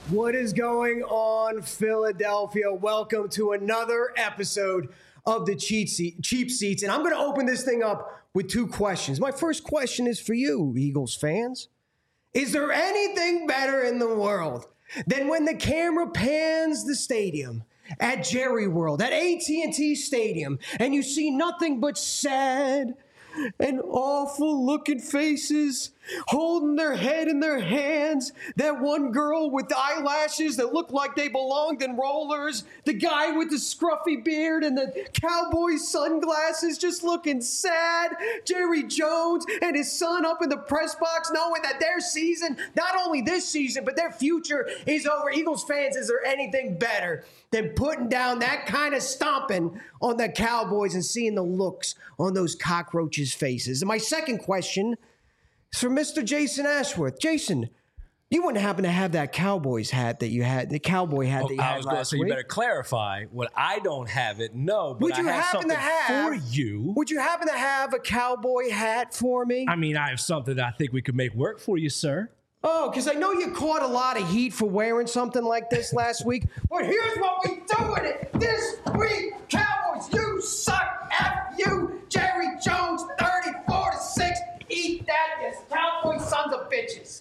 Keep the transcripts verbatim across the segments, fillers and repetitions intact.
What is going on, Philadelphia? Welcome to another episode of the Cheap, Seat, Cheap Seats. And I'm going to open this thing up with two questions. My first question is for you, Eagles fans. Is there anything better in the world than when the camera pans the stadium at Jerry World, at A T and T Stadium, and you see nothing but sad and awful looking faces holding their head in their hands? That one girl with the eyelashes that look like they belonged in rollers, the guy with the scruffy beard and the cowboy sunglasses just looking sad, Jerry Jones and his son up in the press box knowing that their season, not only this season, but their future is over. Eagles fans, is there anything better than putting down that kind of stomping on the Cowboys and seeing the looks on those cockroaches' faces? And my second question is for Mister Jason Ashworth. Jason, you wouldn't happen to have that Cowboys hat that you had, the cowboy hat oh, that you I had was last gonna say, week? You better clarify. What I don't have it, no, but Would you I have happen something to have, for you. Would you happen to have a cowboy hat for me? I mean, I have something that I think we could make work for you, sir. Oh, because I know you caught a lot of heat for wearing something like this last week. But here's what we do with it this week, Cowboys. You suck. F you, Jerry Jones, thirty-four to six. Eat that, you Cowboy sons of bitches.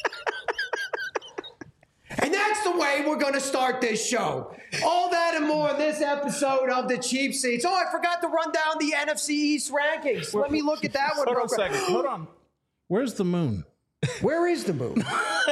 And that's the way we're going to start this show. All that and more in this episode of the Cheap Seats. Oh, I forgot to run down the N F C East rankings. Let me look at that one. Hold real on a quick. second. Hold on. Where's the moon? Where is the moon?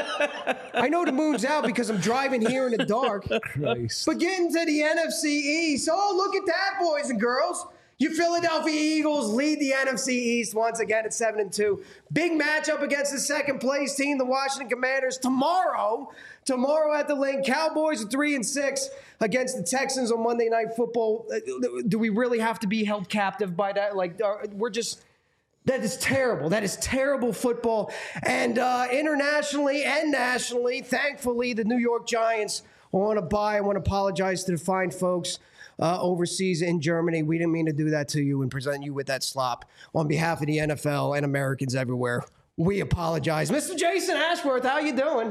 I know the moon's out because I'm driving here in the dark. Christ. But getting to the N F C East, oh, look at that, boys and girls. Your Philadelphia Eagles lead the N F C East once again at seven and two. Big matchup against the second place team, the Washington Commanders, tomorrow. Tomorrow at the Link, Cowboys are three and six against the Texans on Monday Night Football. Do we really have to be held captive by that? Like, we're just... That is terrible. That is terrible football. And uh, internationally and nationally, thankfully, the New York Giants are on a bye. I want to apologize to the fine folks uh, overseas in Germany. We didn't mean to do that to you and present you with that slop. On behalf of the N F L and Americans everywhere, we apologize. Mister Jason Ashworth, how you doing?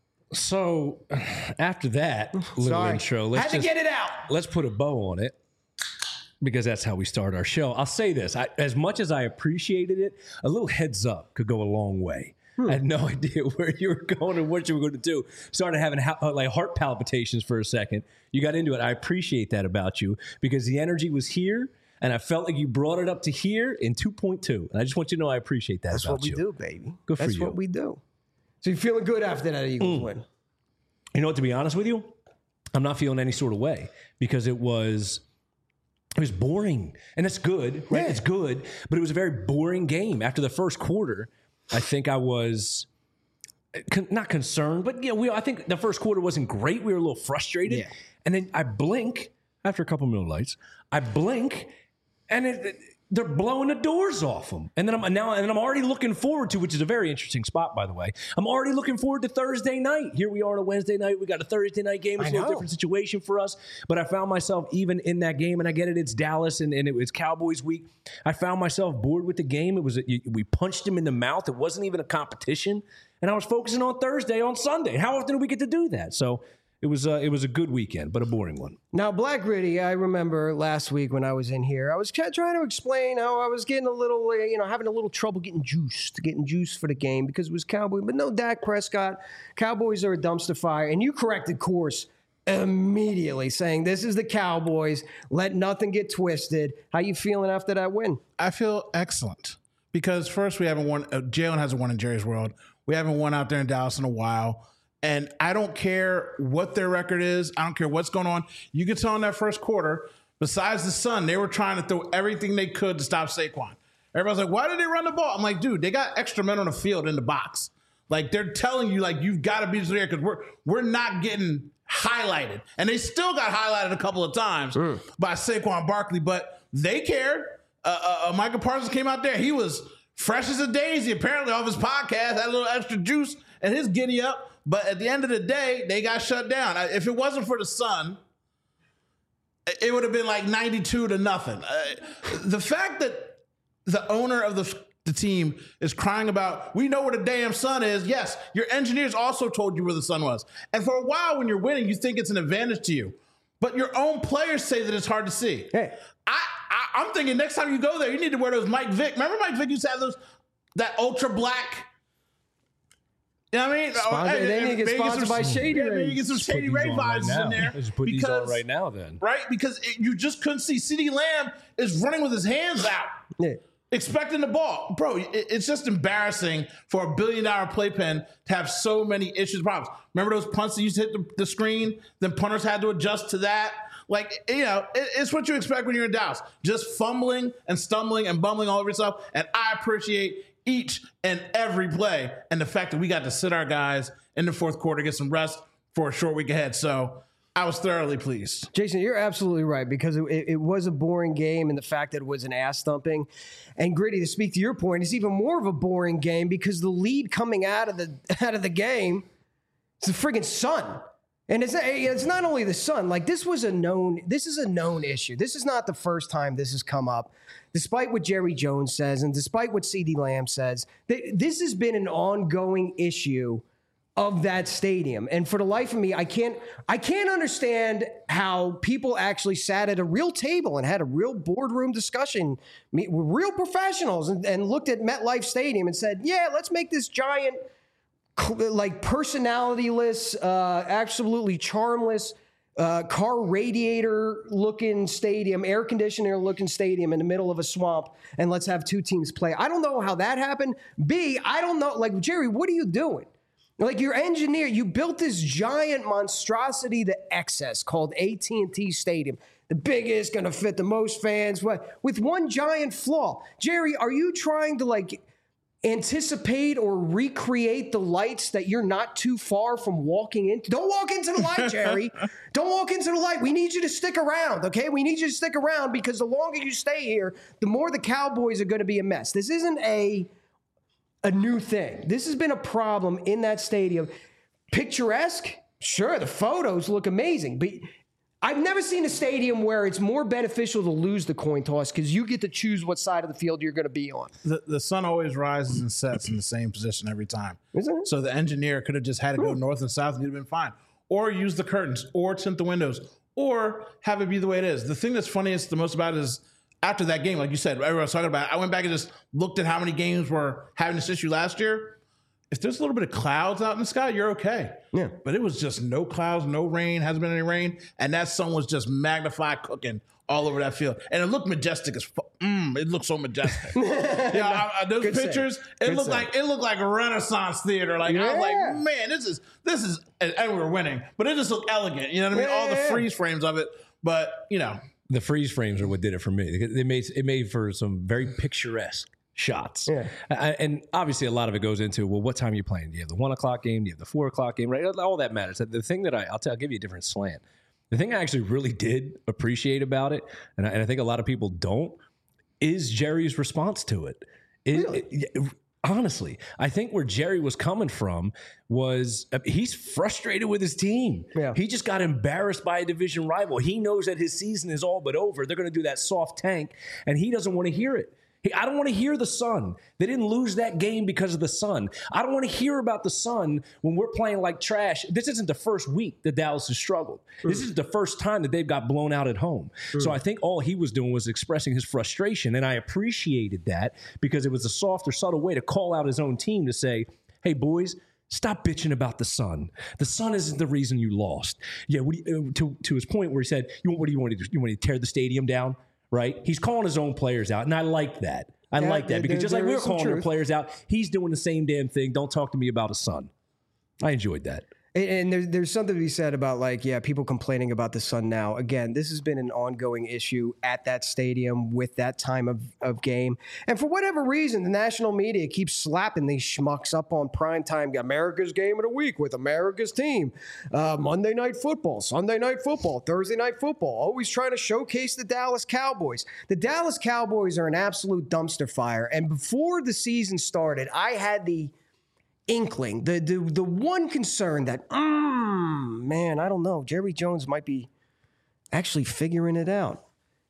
So, after that little Sorry. intro, let's Had to just, get it out. Let's put a bow on it, because that's how we start our show. I'll say this. I, as much as I appreciated it, a little heads up could go a long way. Hmm. I had no idea where you were going and what you were going to do. Started having ha- like heart palpitations for a second. You got into it. I appreciate that about you, because the energy was here, and I felt like you brought it up to here in two point two. And I just want you to know I appreciate that That's about what we you. do, baby. Good for That's you. what we do. So you feeling good after that Eagles Mm. win? You know what, to be honest with you, I'm not feeling any sort of way, because it was... It was boring, and it's good, right? Yeah. It's good, but it was a very boring game. After the first quarter, I think I was con- not concerned, but you know, we, I think the first quarter wasn't great. We were a little frustrated, Yeah. and then I blink after a couple Miller Lights. I blink, and it, it, they're blowing the doors off them. And then I'm now, and I'm already looking forward to, which is a very interesting spot, by the way. I'm already looking forward to Thursday night. Here we are on a Wednesday night. We got a Thursday night game. It's a little different situation for us. But I found myself even in that game, and I get it, it's Dallas, and, and it was Cowboys week. I found myself bored with the game. It was a, we punched him in the mouth. It wasn't even a competition. And I was focusing on Thursday, on Sunday. How often do we get to do that? So it was uh, it was a good weekend, but a boring one. Now, Black Gritty, I remember last week when I was in here, I was trying to explain how I was getting a little, uh, you know, having a little trouble getting juiced, getting juiced for the game because it was Cowboy. But no Dak Prescott. Cowboys are a dumpster fire. And you corrected course immediately, saying this is the Cowboys. Let nothing get twisted. How you feeling after that win? I feel excellent, because first, we haven't won. Uh, Jalen hasn't won in Jerry's World. We haven't won out there in Dallas in a while. And I don't care what their record is. I don't care what's going on. You could tell in that first quarter, besides the sun, they were trying to throw everything they could to stop Saquon. Everybody's like, why did they run the ball? I'm like, dude, they got extra men on the field in the box. Like, they're telling you, like, you've got to be there, because we're we're not getting highlighted. And they still got highlighted a couple of times mm. by Saquon Barkley, but they cared. Uh, uh, Michael Parsons came out there. He was fresh as a daisy, apparently, off his podcast, had a little extra juice and his giddy up. But at the end of the day, they got shut down. If it wasn't for the sun, it would have been like ninety-two to nothing. Uh, the fact that the owner of the the team is crying about, we know where the damn sun is. Yes, your engineers also told you where the sun was. And for a while when you're winning, you think it's an advantage to you. But your own players say that it's hard to see. Hey. I, I, I'm thinking next time you go there, you need to wear those Mike Vick. Remember Mike Vick used to have those, that ultra black. You know what I mean? Sponsor, or, they need to get sponsored by Shady yeah, Ray. You get some Just Shady put Ray these on vibes right in now. there. Just put these on right now then. Right? Because it, you just couldn't see. CeeDee Lamb is running with his hands out. Yeah. Expecting the ball. Bro, it, it's just embarrassing for a billion dollar playpen to have so many issues and problems. Remember those punts that used to hit the, the screen? Then punters had to adjust to that. Like, you know, it, it's what you expect when you're in Dallas. Just fumbling and stumbling and bumbling all over yourself. And I appreciate each and every play and the fact that we got to sit our guys in the fourth quarter, get some rest for a short week ahead. So I was thoroughly pleased. Jason, you're absolutely right, because it, it was a boring game, and the fact that it was an ass thumping. And Gritty, to speak to your point, it's even more of a boring game because the lead coming out of the out of the game is the friggin' sun. And it's it's not only the sun. Like, this was a known this is a known issue. This is not the first time this has come up. Despite what Jerry Jones says and despite what CeeDee Lamb says, th- this has been an ongoing issue of that stadium. And for the life of me, I can't I can't understand how people actually sat at a real table and had a real boardroom discussion with real professionals and, and looked at MetLife Stadium and said, yeah, let's make this giant, like, personality-less, uh, absolutely charmless, uh, car radiator looking stadium, air conditioner looking stadium in the middle of a swamp, and let's have two teams play. I don't know how that happened. B, I don't know. Like, Jerry, what are you doing? Like, your engineer, you built this giant monstrosity to excess called A T and T Stadium. The biggest, going to fit the most fans, what, with one giant flaw. Jerry, are you trying to, like, anticipate or recreate the lights that you're not too far from walking into? Don't walk into the light, Jerry. Don't walk into the light. We need you to stick around, okay? We need you to stick around because the longer you stay here, the more the Cowboys are going to be a mess. This isn't a... a new thing. This has been a problem in that stadium. Picturesque? Sure, the photos look amazing, but I've never seen a stadium where it's more beneficial to lose the coin toss because you get to choose what side of the field you're going to be on. The, the sun always rises and sets in the same position every time. Isn't it? So the engineer could have just had to go north and south and you'd have been fine. Or use the curtains, or tint the windows, or have it be the way it is. The thing that's funniest the most about it is after that game, like you said, everyone was talking about it, I went back and just looked at how many games were having this issue last year. If there's a little bit of clouds out in the sky, you're okay. Yeah. But it was just no clouds, no rain, hasn't been any rain. And that sun was just magnified cooking all over that field. And it looked majestic as fuck. Mm, it looked so majestic. yeah, I, I, those Good pictures, save. it Good looked save. like it looked like a Renaissance theater. Like I was like, Yeah. man, this is this is and, and we were winning. But it just looked elegant. You know what I mean? Yeah, all the yeah, yeah. freeze frames of it. But, you know. The freeze frames are what did it for me. It made it made for some very picturesque shots. Yeah. I- and obviously a lot of it goes into, well, what time are you playing? Do you have the one o'clock game? Do you have the four o'clock game? Right? All that matters. The thing that I, I'll, tell, I'll give you a different slant. The thing I actually really did appreciate about it, and I, and I think a lot of people don't, is Jerry's response to it. It- Really? it- Honestly, I think where Jerry was coming from was uh, he's frustrated with his team. Yeah. He just got embarrassed by a division rival. He knows that his season is all but over. They're going to do that soft tank, and he doesn't want to hear it. He, I don't want to hear the Sun. They didn't lose that game because of the Sun. I don't want to hear about the Sun when we're playing like trash. This isn't the first week that Dallas has struggled. This is the first time that they've got blown out at home. So I think all he was doing was expressing his frustration, and I appreciated that because it was a softer, subtle way to call out his own team to say, hey, boys, stop bitching about the Sun. The Sun isn't the reason you lost. Yeah, what do you, uh, to, to his point where he said, you, what do you want to do? You want to tear the stadium down? Right? He's calling his own players out, and I like that. I Yeah, like that because there- just like there we were is some calling our truth. players out, he's doing the same damn thing. Don't talk to me about a Sun. I enjoyed that. And, and there's there's something to be said about, like, yeah, people complaining about the Sun now. Again, this has been an ongoing issue at that stadium with that time of, of game. And for whatever reason, the national media keeps slapping these schmucks up on primetime, America's game of the week with America's team. Uh, Monday night football, Sunday night football, Thursday night football, always trying to showcase the Dallas Cowboys. The Dallas Cowboys are an absolute dumpster fire. And before the season started, I had the inkling, the the the one concern that, mm, man, I don't know, Jerry Jones might be actually figuring it out.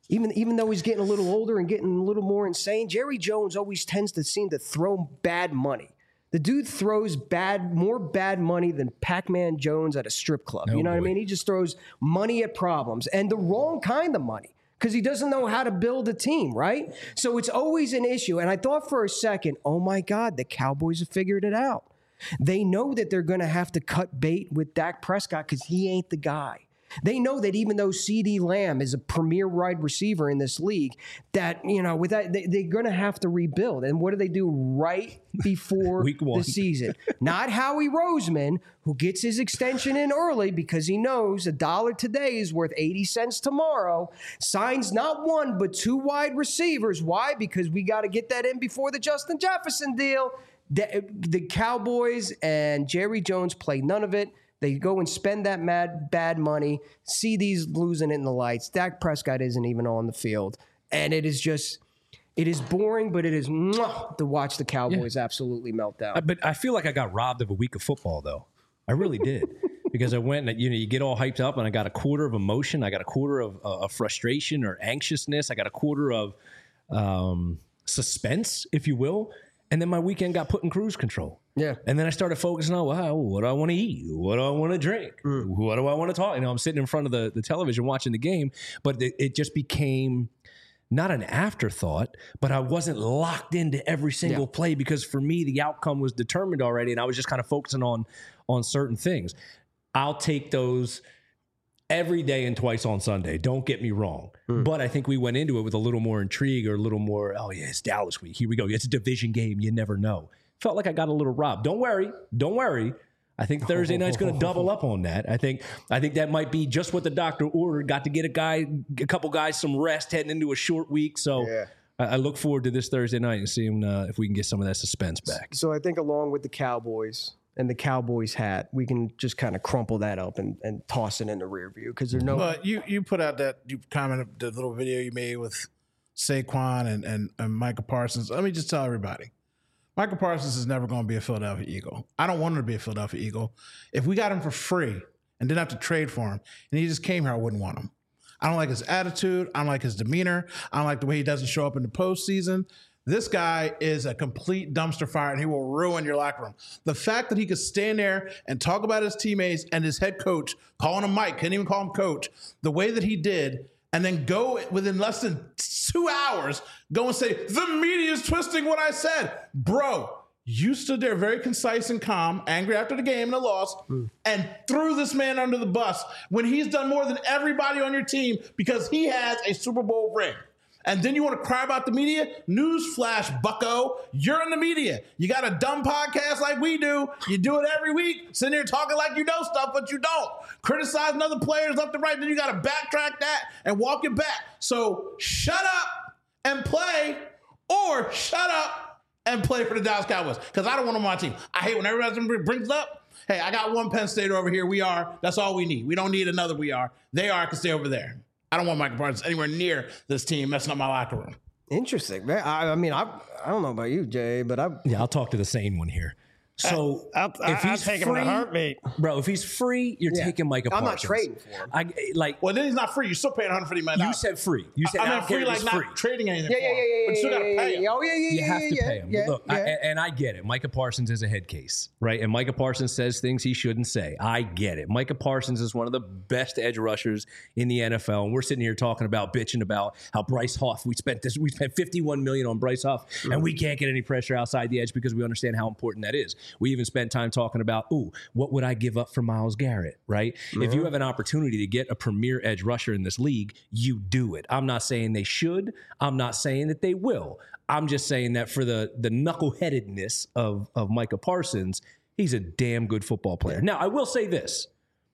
Even, even though he's getting a little older and getting a little more insane, Jerry Jones always tends to seem to throw bad money. The dude throws bad, more bad money than Pac-Man Jones at a strip club. Oh, you know boy. what I mean? He just throws money at problems and the wrong kind of money because he doesn't know how to build a team, right? So it's always an issue. And I thought for a second, oh my God, the Cowboys have figured it out. They know that they're going to have to cut bait with Dak Prescott because he ain't the guy. They know that even though CeeDee Lamb is a premier wide receiver in this league, that, you know, with that, they, they're going to have to rebuild. And what do they do right before Week one. the season? Not Howie Roseman, who gets his extension in early because he knows a dollar today is worth eighty cents tomorrow, signs not one, but two wide receivers. Why? Because we got to get that in before the Justin Jefferson deal. The, the Cowboys and Jerry Jones play none of it. They go and spend that mad bad money. C D's losing it in the lights. Dak Prescott isn't even on the field. And it is just, it is boring, but it is mwah, to watch the Cowboys yeah. absolutely melt down. Uh, but I feel like I got robbed of a week of football, though. I really did. Because I went and, you know, you get all hyped up and I got a quarter of emotion. I got a quarter of, uh, of frustration or anxiousness. I got a quarter of um, suspense, if you will. And then my weekend got put in cruise control. Yeah. And then I started focusing on, wow, what do I want to eat? What do I want to drink? Mm. What do I want to talk? You know, I'm sitting in front of the, the television watching the game, but it, it just became not an afterthought, but I wasn't locked into every single yeah. play because for me, the outcome was determined already. And I was just kind of focusing on, on certain things. I'll take those every day and twice on Sunday. Don't get me wrong. Mm. But I think we went into it with a little more intrigue or a little more, oh, yeah, it's Dallas week. Here we go. It's a division game. You never know. Felt like I got a little robbed. Don't worry. Don't worry. I think Thursday night's going to double up on that. I think I think that might be just what the doctor ordered. Got to get a guy, a couple guys some rest heading into a short week. So yeah. I, I look forward to this Thursday night and seeing uh, if we can get some of that suspense back. So I think along with the Cowboys and the Cowboys hat, we can just kind of crumple that up and, and toss it in the rear view because there's no. But you you put out that you commented the little video you made with Saquon and and, and Micah Parsons. Let me just tell everybody. Micah Parsons is never going to be a Philadelphia Eagle. I don't want him to be a Philadelphia Eagle. If we got him for free and didn't have to trade for him, and he just came here, I wouldn't want him. I don't like his attitude. I don't like his demeanor. I don't like the way he doesn't show up in the postseason. This guy is a complete dumpster fire, and he will ruin your locker room. The fact that he could stand there and talk about his teammates and his head coach, calling him Mike, couldn't even call him coach, the way that he did, and then go within less than two hours, go and say, the media is twisting what I said. Bro, you stood there very concise and calm, angry after the game and the loss, mm. and threw this man under the bus when he's done more than everybody on your team because he has a Super Bowl ring. And then you want to cry about the media? Newsflash, bucko. You're in the media. You got a dumb podcast like we do. You do it every week. Sitting there talking like you know stuff, but you don't. Criticizing other players left and right. Then you got to backtrack that and walk it back. So shut up and play, or shut up and play for the Dallas Cowboys. Because I don't want them on my team. I hate when everybody brings it up. Hey, I got one Penn State over here. We are. That's all we need. We don't need another we are. They are. I can stay over there. I don't want Micah Parsons anywhere near this team messing up my locker room. Interesting, man. I, I mean, I I don't know about you, Jay, but I yeah, I'll talk to the sane one here. So I, I, if he's I'll take free, him in a heartbeat. Bro, if he's free, you're yeah. taking Micah I'm Parsons. I'm not trading for him. I, like, well, then he's not free. You're still paying one hundred fifty million dollars. You said free. You said I meant free, like not free. trading anything yeah, for yeah, him. Yeah, yeah, but you still got to yeah, pay him. Yeah, oh, yeah, yeah, you yeah, have to yeah, pay him. Yeah, Look, yeah. I, and I get it. Micah Parsons is a head case, right? And Micah Parsons says things he shouldn't say. I get it. Micah Parsons is one of the best edge rushers in the N F L, and we're sitting here talking about, bitching about how Bryce Huff, we spent this, we spent fifty-one million dollars on Bryce Huff, mm-hmm. and we can't get any pressure outside the edge because we understand how important that is. We even spent time talking about, ooh, what would I give up for Myles Garrett, right? Mm-hmm. If you have an opportunity to get a premier edge rusher in this league, you do it. I'm not saying they should. I'm not saying that they will. I'm just saying that for the the knuckleheadedness of, of Micah Parsons, he's a damn good football player. Now, I will say this.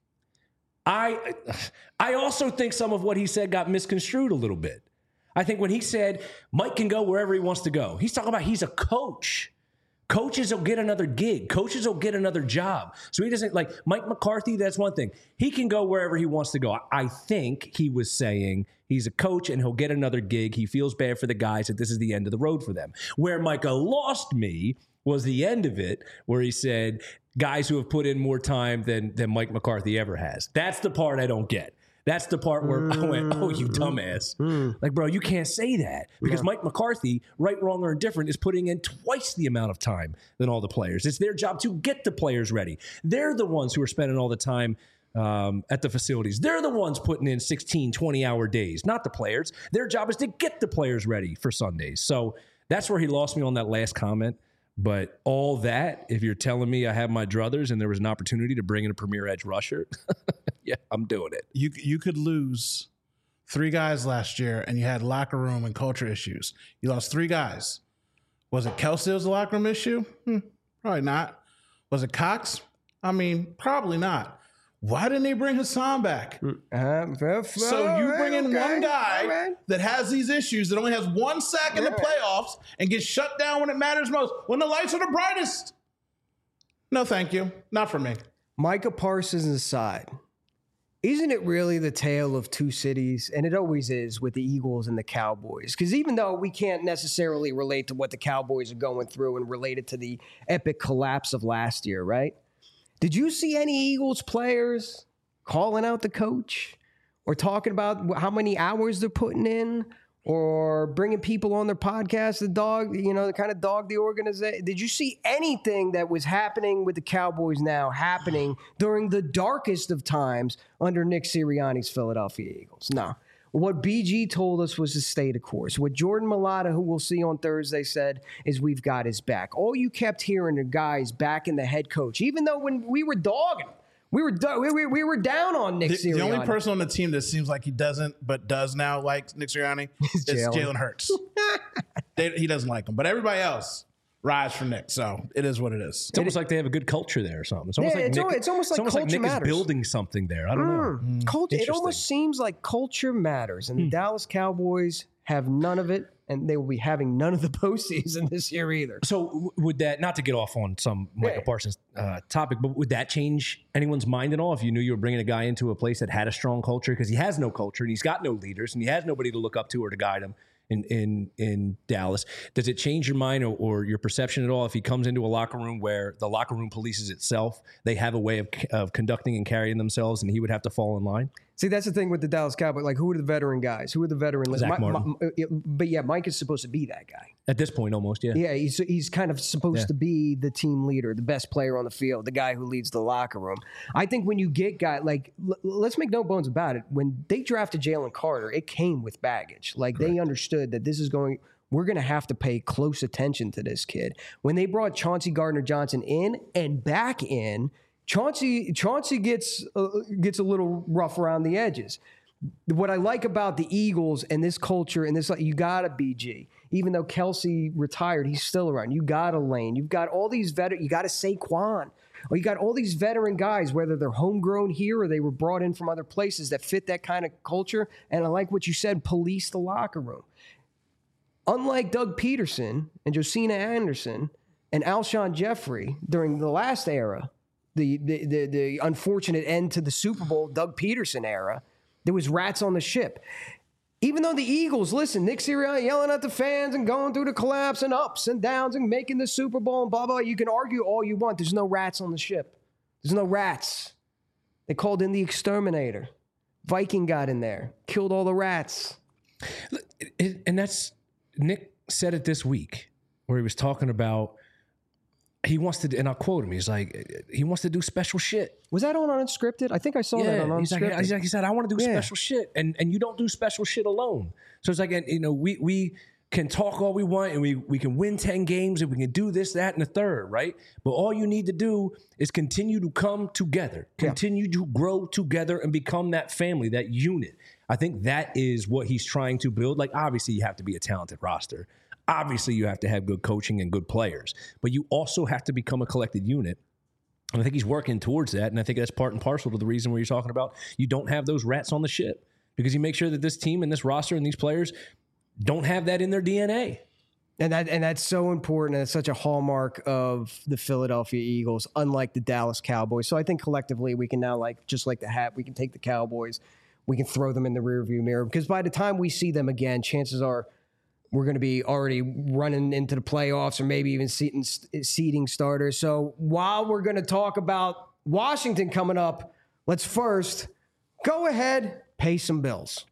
I I also think some of what he said got misconstrued a little bit. I think when he said Mike can go wherever he wants to go, he's talking about he's a coach. Coaches will get another gig. Coaches will get another job. So he doesn't, like Mike McCarthy, that's one thing. He can go wherever he wants to go. I think he was saying he's a coach and he'll get another gig. He feels bad for the guys that this is the end of the road for them. Where Micah lost me was the end of it, where he said guys who have put in more time than, than Mike McCarthy ever has. That's the part I don't get. That's the part where Mm. I went, oh, you dumbass. Mm. Like, bro, you can't say that because Yeah. Mike McCarthy, right, wrong, or indifferent, is putting in twice the amount of time than all the players. It's their job to get the players ready. They're the ones who are spending all the time um, at the facilities. They're the ones putting in sixteen, twenty-hour days, not the players. Their job is to get the players ready for Sundays. So that's where he lost me on that last comment. But all that, if you're telling me I have my druthers and there was an opportunity to bring in a premier edge rusher, yeah, I'm doing it. You you could lose three guys last year, and you had locker room and culture issues. You lost three guys. Was it Kelsey was a locker room issue? Hmm, probably not. Was it Cox? I mean, probably not. Why didn't they bring Hassan back? Uh, So you bring in okay. one guy All right. that has these issues, that only has one sack in the Yeah. playoffs, and gets shut down when it matters most, when the lights are the brightest. No, thank you. Not for me. Micah Parsons aside, isn't it really the tale of two cities? And it always is with the Eagles and the Cowboys. Because even though we can't necessarily relate to what the Cowboys are going through and relate it to the epic collapse of last year, right? Did you see any Eagles players calling out the coach or talking about how many hours they're putting in or bringing people on their podcast, the dog, you know, the kind of dog the organization? Did you see anything that was happening with the Cowboys now happening during the darkest of times under Nick Sirianni's Philadelphia Eagles? No. What B G told us was to stay the course. What Jordan Mailata, who we'll see on Thursday, said is we've got his back. All you kept hearing are guys backing the head coach, even though when we were dogging, we were do- we, we, we were down on Nick The, Sirianni. the only person on the team that seems like he doesn't, but does now like Nick Sirianni is Jalen. Jalen Hurts. they, he doesn't like him, but everybody else rides for Nick. So it is what it is. It's almost like they have a good culture there or something. It's almost Yeah, like it's Nick, al- it's almost like culture Nick matters. is building something there. I don't know. Culture, it Interesting. almost seems like culture matters, and the Dallas Cowboys have none of it, and they will be having none of the postseason this year either. So w- would that, not to get off on some Michael Yeah. Parsons uh, topic, but would that change anyone's mind at all if you knew you were bringing a guy into a place that had a strong culture? Because he has no culture and he's got no leaders and he has nobody to look up to or to guide him in in, in Dallas. Does it change your mind or, or your perception at all if he comes into a locker room where the locker room polices itself? They have a way of, of conducting and carrying themselves and he would have to fall in line? See, that's the thing with the Dallas Cowboys. Like, who are the veteran guys? Who are the veteran? Zach Mi- Martin. Mi- uh, but yeah, Mike is supposed to be that guy. At this point, almost, yeah. Yeah, he's he's kind of supposed Yeah. to be the team leader, the best player on the field, the guy who leads the locker room. I think when you get guy like, l- let's make no bones about it. When they drafted Jalen Carter, it came with baggage. Like they understood that this is going. We're going to have to pay close attention to this kid. When they brought Chauncey Gardner-Johnson in and back in, Chauncey Chauncey gets uh, gets a little rough around the edges. What I like about the Eagles and this culture and this, like, you got a B G. Even though Kelsey retired, he's still around. You got a Lane. You've got all these veteran. You got a Saquon. Or you got all these veteran guys, whether they're homegrown here or they were brought in from other places that fit that kind of culture. And I like what you said, police the locker room. Unlike Doug Peterson and Josina Anderson and Alshon Jeffrey during the last era, the, the, the, the unfortunate end to the Super Bowl Doug Peterson era, there was rats on the ship. Even though the Eagles, listen, Nick Sirianni yelling at the fans and going through the collapse and ups and downs and making the Super Bowl and blah, blah, you can argue all you want. There's no rats on the ship. There's no rats. They called in the exterminator. Viking got in there, killed all the rats. It- and that's, Nick said it this week where he was talking about he wants to, and I'll quote him. He's like, he wants to do special shit. Was that on Unscripted? I think I saw that on he's like, Unscripted. he's like, he said, I want to do Yeah. special shit, and and you don't do special shit alone. So it's like, and, you know, we we can talk all we want, and we we can win ten games, and we can do this, that, and the third, right? But all you need to do is continue to come together, continue to grow together, and become that family, that unit. I think that is what he's trying to build. Like, obviously, you have to be a talented roster. Obviously, you have to have good coaching and good players, but you also have to become a collected unit. And I think he's working towards that. And I think that's part and parcel to the reason where you're talking about you don't have those rats on the ship, because you make sure that this team and this roster and these players don't have that in their D N A. And that and that's so important, and it's such a hallmark of the Philadelphia Eagles, unlike the Dallas Cowboys. So I think collectively we can now, like, just like the hat, we can take the Cowboys, we can throw them in the rearview mirror, because by the time we see them again, chances are we're going to be already running into the playoffs or maybe even seating, seeding starters. So while we're going to talk about Washington coming up, let's first go ahead, pay some bills.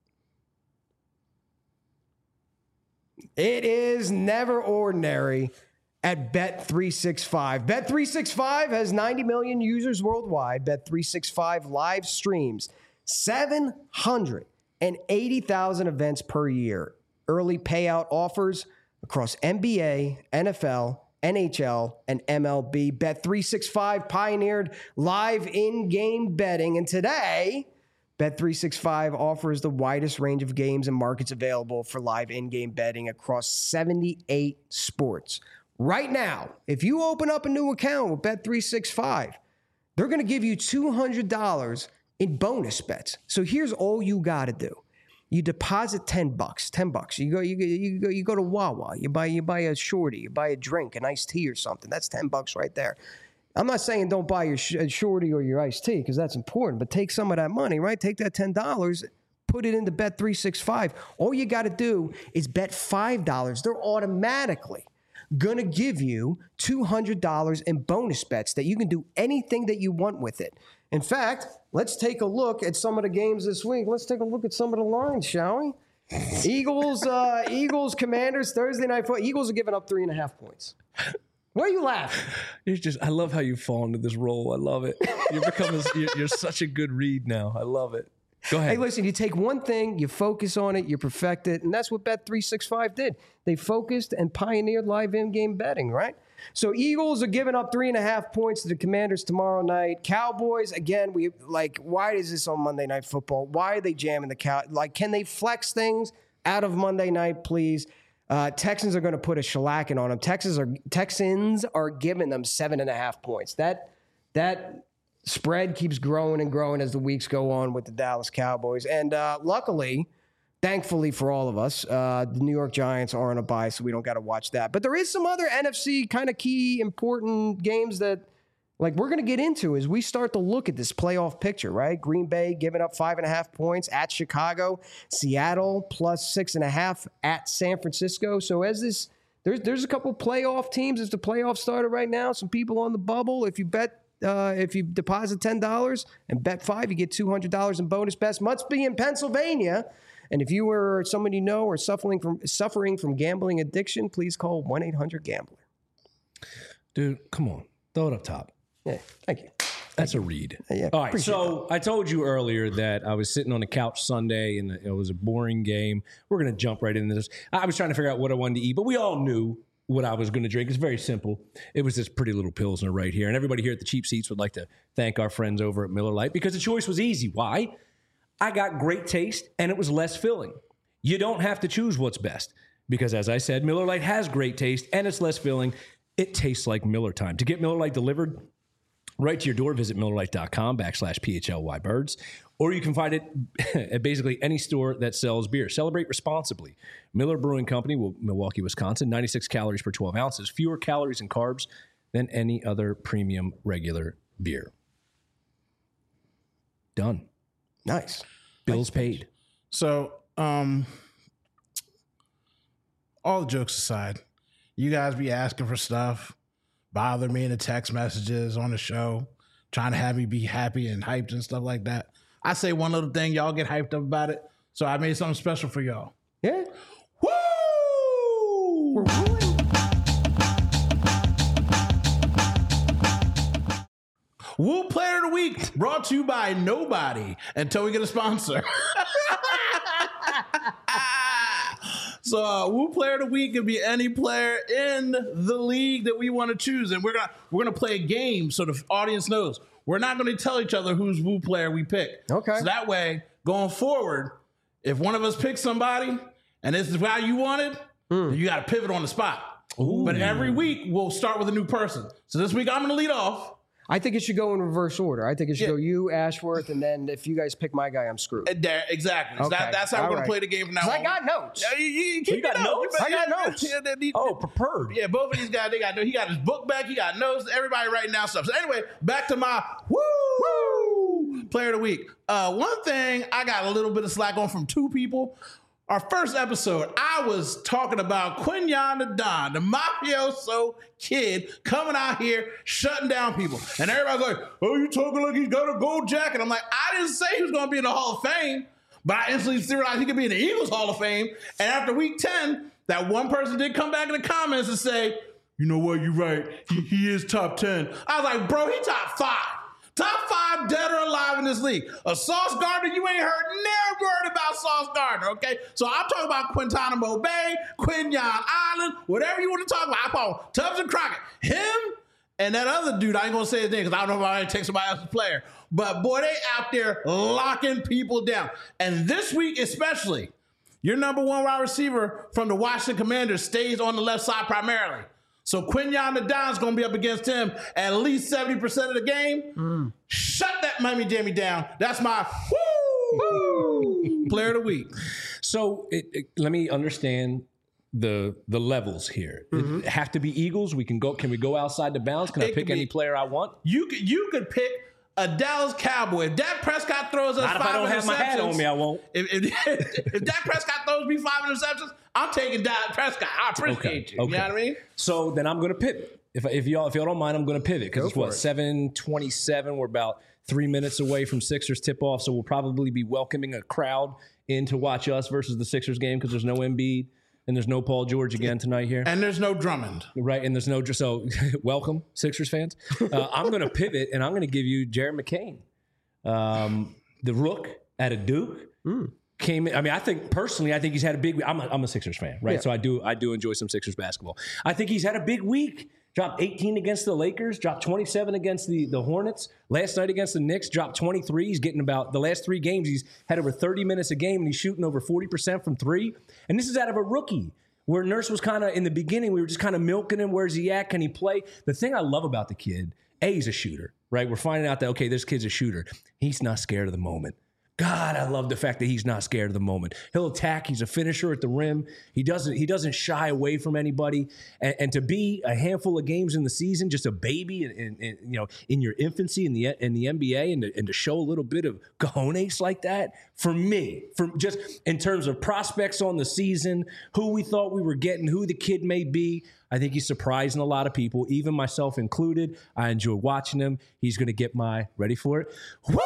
It is never ordinary at Bet three sixty-five. Bet three sixty-five has ninety million users worldwide. Bet three sixty-five live streams seven hundred eighty thousand events per year. Early payout offers across N B A, N F L, N H L, and M L B. Bet three sixty-five pioneered live in-game betting, and today, Bet three sixty-five offers the widest range of games and markets available for live in-game betting across seventy-eight sports. Right now, if you open up a new account with Bet three sixty-five, they're going to give you two hundred dollars in bonus bets. So here's all you got to do. You deposit ten bucks, ten bucks. You go, you go, you go, you go to Wawa. You buy, you buy a shorty. You buy a drink, an iced tea or something. That's ten bucks right there. I'm not saying don't buy your sh- shorty or your iced tea because that's important, but take some of that money, right? Take that ten dollars, put it into Bet three sixty-five. All you got to do is bet five dollars. They're automatically going to give you two hundred dollars in bonus bets that you can do anything that you want with it. In fact, let's take a look at some of the games this week. Let's take a look at some of the lines, shall we? Eagles, uh, Eagles, Commanders, Thursday night football. Eagles are giving up three and a half points. Why are you laughing? It's just, I love how you fall into this role. I love it. You're becoming, you're, you're such a good read now. I love it. Go ahead. Hey, listen, you take one thing, you focus on it, you perfect it, and that's what Bet three sixty-five did. They focused and pioneered live in-game betting, right? So Eagles are giving up three and a half points to the Commanders tomorrow night. Cowboys, again, we like, why is this on Monday Night Football? Why are they jamming the cow? Like, can they flex things out of Monday night, please? Uh, Texans are going to put a shellacking on them. Texans are Texans are giving them seven and a half points. That that spread keeps growing and growing as the weeks go on with the Dallas Cowboys. And uh, luckily, thankfully for all of us, uh, the New York Giants are on a bye, so we don't got to watch that. But there is some other N F C kind of key important games that, like, we're going to get into as we start to look at this playoff picture, right? Green Bay giving up five and a half points at Chicago, Seattle plus six and a half at San Francisco. So as this, there's there's a couple playoff teams as the playoffs started right now. Some people on the bubble. If you bet, uh, if you deposit ten dollars and bet five, you get two hundred dollars in bonus bets. Must be in Pennsylvania. And if you or somebody you know or suffering from suffering from gambling addiction, please call one eight hundred gambler. Dude, come on. Throw it up top. Yeah, thank you. That's a read. Yeah, all right, so that. I told you earlier that I was sitting on the couch Sunday and it was a boring game. We're going to jump right into this. I was trying to figure out what I wanted to eat, but we all knew what I was going to drink. It's very simple. It was this pretty little Pilsner right here. And everybody here at the Cheap Seats would like to thank our friends over at Miller Lite because the choice was easy. Why? I got great taste and it was less filling. You don't have to choose what's best because, as I said, Miller Lite has great taste and it's less filling. It tastes like Miller time. To get Miller Lite delivered right to your door, visit MillerLite.com backslash PHLY birds, or you can find it at basically any store that sells beer. Celebrate responsibly. Miller Brewing Company, Milwaukee, Wisconsin, ninety-six calories per twelve ounces, fewer calories and carbs than any other premium regular beer. Done. Nice. Bills nice paid. So, um, all the jokes aside, you guys be asking for stuff, bother me in the text messages on the show, trying to have me be happy and hyped and stuff like that. I say one little thing, y'all get hyped up about it. So I made something special for y'all. Yeah. Woo! We're wooing. Woo Player of the Week brought to you by nobody until we get a sponsor. So uh, Woo Player of the Week can be any player in the league that we want to choose, and we're gonna we're gonna play a game so the audience knows. We're not going to tell each other whose Woo player we pick. Okay. So that way, going forward, if one of us picks somebody and this is how you want it, mm. then you got to pivot on the spot. Ooh. But every week we'll start with a new person. So this week I'm going to lead off. I think it should go in reverse order. I think it should yeah. go you, Ashworth, and then if you guys pick my guy, I'm screwed. There, exactly. So okay. that, that's how All we're going right. to play the game from now on. I got notes. Yeah, you, you, you, you got notes? I got notes. Yeah, they, they, oh, prepared. Yeah, both of these guys, they got he got his book back. He got notes. Everybody writing down stuff. So anyway, back to my woo, woo player of the week. Uh, one thing I got a little bit of slack on from two people. our first episode, I was talking about Quinyon the Don, the mafioso kid coming out here shutting down people. And everybody's like, oh, you talking like he's got a gold jacket. I'm like, I didn't say he was going to be in the Hall of Fame, but I instantly realized he could be in the Eagles Hall of Fame. And after week ten, that one person did come back in the comments and say, you know what, you're right. He, he is top ten. I was like, bro, he top five. Top five dead or alive in this league. A Sauce Gardner, you ain't heard, never heard about Sauce Gardner, okay? So I'm talking about Guantanamo Bay, Quinyon Island, whatever you want to talk about. I call Tubbs and Crockett. Him and that other dude, I ain't going to say his name because I don't know if I want to take somebody else's player. But, boy, they out there locking people down. And this week especially, your number one wide receiver from the Washington Commanders stays on the left side primarily. So Quinyon the Don's going to be up against him at least seventy percent of the game. Mm. Shut that Miami Jamie down. That's my woo, woo, player of the week. So it, it, let me understand the the levels here. Mm-hmm. It have to be Eagles. We can go. Can we go outside the bounds? Can it I pick any player I want? You could, you could pick a Dallas Cowboy. If Dak Prescott throws us Not five if I don't interceptions, have my hat on me, I won't. If, if, if Dak Prescott throws me five interceptions, I'm taking Dak Prescott. I appreciate okay. you. Okay. You know what I mean? So then I'm going to pivot. If if y'all if y'all don't mind, I'm going to pivot because it's what seven twenty-seven. We're about three minutes away from Sixers tip off, so we'll probably be welcoming a crowd in to watch us versus the Sixers game because there's no Embiid. And there's no Paul George again tonight here. And there's no Drummond. Right, and there's no... So, welcome, Sixers fans. Uh, I'm going to pivot, and I'm going to give you Jared McCain. Um, the Rook out of Duke mm. came in. I mean, I think, personally, I think he's had a big week. I'm a, I'm a Sixers fan, right? Yeah. So I do I do enjoy some Sixers basketball. I think he's had a big week. Dropped eighteen against the Lakers, dropped twenty-seven against the, the Hornets. Last night against the Knicks, dropped twenty-three. He's getting about the last three games. He's had over thirty minutes a game, and he's shooting over forty percent from three. And this is out of a rookie, where Nurse was kind of, in the beginning, we were just kind of milking him. Where's he at? Can he play? The thing I love about the kid, A, he's a shooter, right? We're finding out that, okay, this kid's a shooter. He's not scared of the moment. God, I love the fact that he's not scared of the moment. He'll attack. He's a finisher at the rim. He doesn't he doesn't shy away from anybody. And, and to be a handful of games in the season, just a baby, and, and, and you know, in your infancy in the in the N B A, and to, and to show a little bit of cojones like that, for me, for just in terms of prospects on the season, who we thought we were getting, who the kid may be, I think he's surprising a lot of people, even myself included. I enjoy watching him. He's going to get my, ready for it? Woo!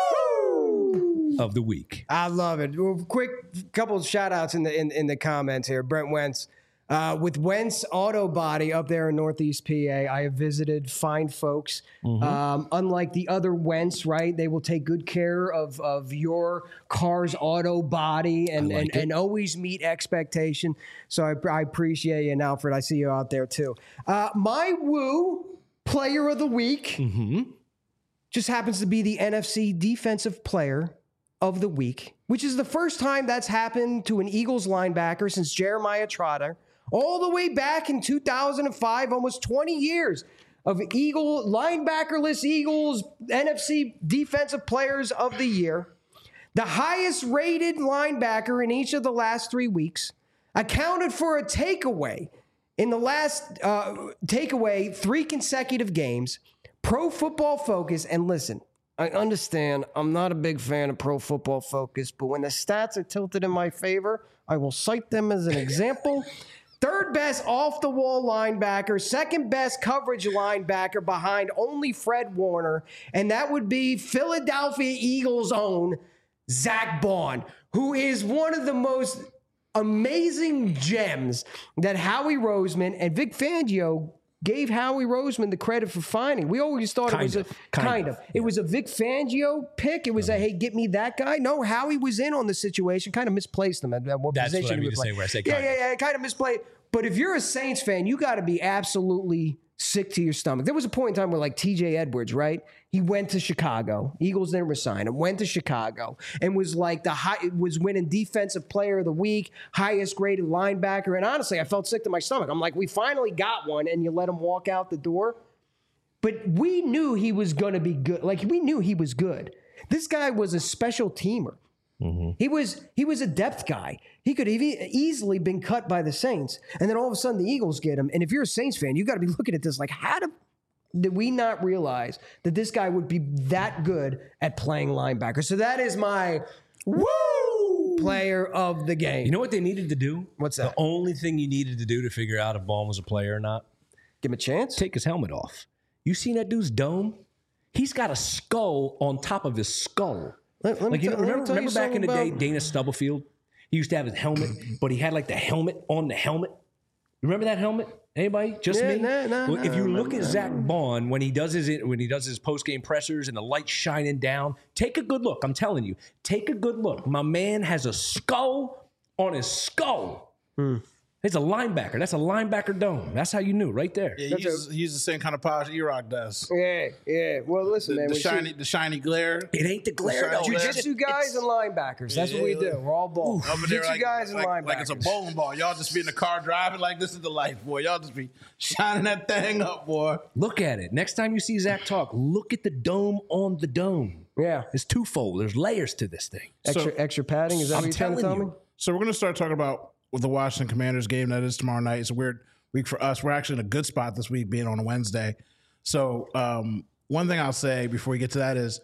Of the week. I love it. Well, quick couple of shout outs in the in, in the comments here. Brent Wentz. Uh, with Wentz Auto Body up there in Northeast P A, I have visited fine folks. Mm-hmm. Um, unlike the other Wentz, right? They will take good care of, of your car's auto body and, like and, and always meet expectation. So I, I appreciate you. And Alfred, I see you out there too. Uh, my woo player of the week mm-hmm. just happens to be the N F C Defensive Player of the Week, which is the first time that's happened to an Eagles linebacker since Jeremiah Trotter. All the way back in two thousand five, almost twenty years of Eagle, linebackerless Eagles, N F C Defensive Players of the Year. The highest rated linebacker in each of the last three weeks. Accounted for a takeaway in the last uh, takeaway three consecutive games. Pro Football Focus, and listen, I understand I'm not a big fan of Pro Football Focus, but when the stats are tilted in my favor, I will cite them as an example. Third best off-the-wall linebacker, second best coverage linebacker behind only Fred Warner, and that would be Philadelphia Eagles' own Zach Bond, who is one of the most amazing gems that Howie Roseman and Vic Fangio gave Howie Roseman the credit for finding. We always thought kind it was of, a kind, kind of. of. It was a Vic Fangio pick. It was a, hey, get me that guy. No, Howie was in on the situation. Kind of misplaced them at, at what That's position what I he mean would to play. say where I say yeah, kind yeah, of. yeah, kind of misplayed. But if you're a Saints fan, you got to be absolutely sick to your stomach. There was a point in time where, like, T J Edwards, right? He went to Chicago. Eagles didn't resign him. Went to Chicago and was like the high, was winning Defensive Player of the Week, highest graded linebacker. And honestly, I felt sick to my stomach. I'm like, we finally got one, and you let him walk out the door. But we knew he was going to be good. Like, we knew he was good. This guy was a special teamer. Mm-hmm. He was he was a depth guy. He could have e- easily been cut by the Saints. And then all of a sudden the Eagles get him. And if you're a Saints fan, you got to be looking at this like, how did, did we not realize that this guy would be that good at playing linebacker? So that is my woo player of the game. You know what they needed to do? What's that? The only thing you needed to do to figure out if Vaughn was a player or not? Give him a chance? Take his helmet off. You seen that dude's dome? He's got a skull on top of his skull. Let, let like, you know, t- remember, remember back in the day, about... Dana Stubblefield? He used to have his helmet, but he had like the helmet on the helmet. Remember that helmet? Anybody? Just yeah, me? Nah, nah, well, nah, if you nah, look nah, at Zach Vaughn when he does his when he does his post game pressers and the light shining down, take a good look. I'm telling you, take a good look. My man has a skull on his skull. Hmm. It's a linebacker. That's a linebacker dome. That's how you knew right there. Yeah, he uses, he uses the same kind of polish E-Rock does. Yeah, yeah. Well, listen, the, man. The shiny, see, the shiny glare. It ain't the glare, though. Jiu-jitsu guys and linebackers. That's yeah, what we do. We're all ball. Jiu-jitsu like, guys like, and linebackers. Like it's a bowling ball. Y'all just be in the car driving like this is the life, boy. Y'all just be shining that thing up, boy. Look at it. Next time you see Zach talk, look at the dome on the dome. Yeah. It's twofold. There's layers to this thing. Extra, so, extra padding? Is that I'm what you're trying to tell you. me? So we're going to start talking about with the Washington Commanders game that is tomorrow night. It's a weird week for us. We're actually in a good spot this week being on a Wednesday. So um, one thing I'll say before we get to that is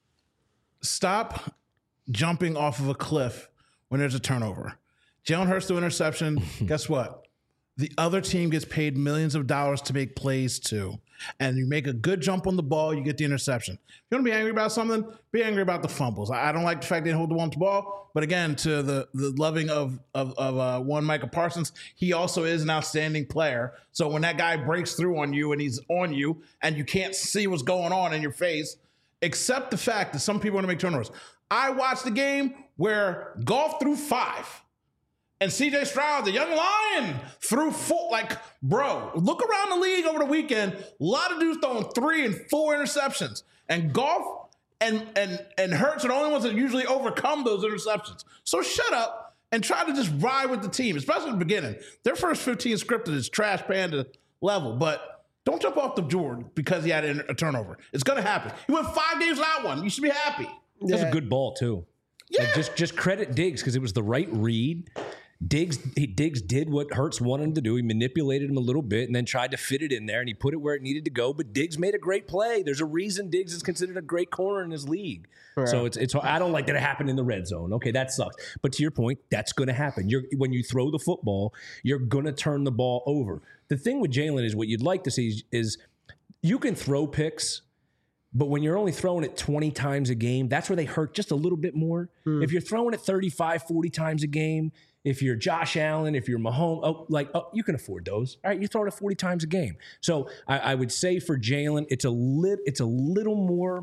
stop jumping off of a cliff when there's a turnover. Jalen Hurts threw interception. Guess what? The other team gets paid millions of dollars to make plays too. And you make a good jump on the ball, you get the interception. If you want to be angry about something, be angry about the fumbles. I don't like the fact they didn't hold the one ball, but again, to the, the loving of of, of uh, one Micah Parsons, he also is an outstanding player. So when that guy breaks through on you and he's on you and you can't see what's going on in your face, accept the fact that some people want to make turnovers. I watched the game where Goff threw five. And C J Stroud, the young lion, threw four. Like, bro, look around the league over the weekend. A lot of dudes throwing three and four interceptions. And Goff and and and Hurts are the only ones that usually overcome those interceptions. So shut up and try to just ride with the team, especially in the beginning. Their first fifteen scripted is trash panda level, but don't jump off the Jordan because he had a turnover. It's going to happen. He went five games without one. You should be happy. That's Yeah. a good ball, too. Yeah. Like just, just credit Diggs because it was the right read. Diggs he, Diggs did what Hurts wanted him to do. He manipulated him a little bit and then tried to fit it in there, and he put it where it needed to go. But Diggs made a great play. There's a reason Diggs is considered a great corner in his league. Right. So it's it's. I don't like that it happened in the red zone. Okay, that sucks. But to your point, that's going to happen. You're when you throw the football, you're going to turn the ball over. The thing with Jalen is what you'd like to see is, is you can throw picks. But when you're only throwing it twenty times a game, that's where they hurt just a little bit more. Mm. If you're throwing it thirty-five, forty times a game, if you're Josh Allen, if you're Mahomes, oh, like oh, you can afford those. All right, you're throwing it forty times a game. So I, I would say for Jalen, it's a lit, it's a little more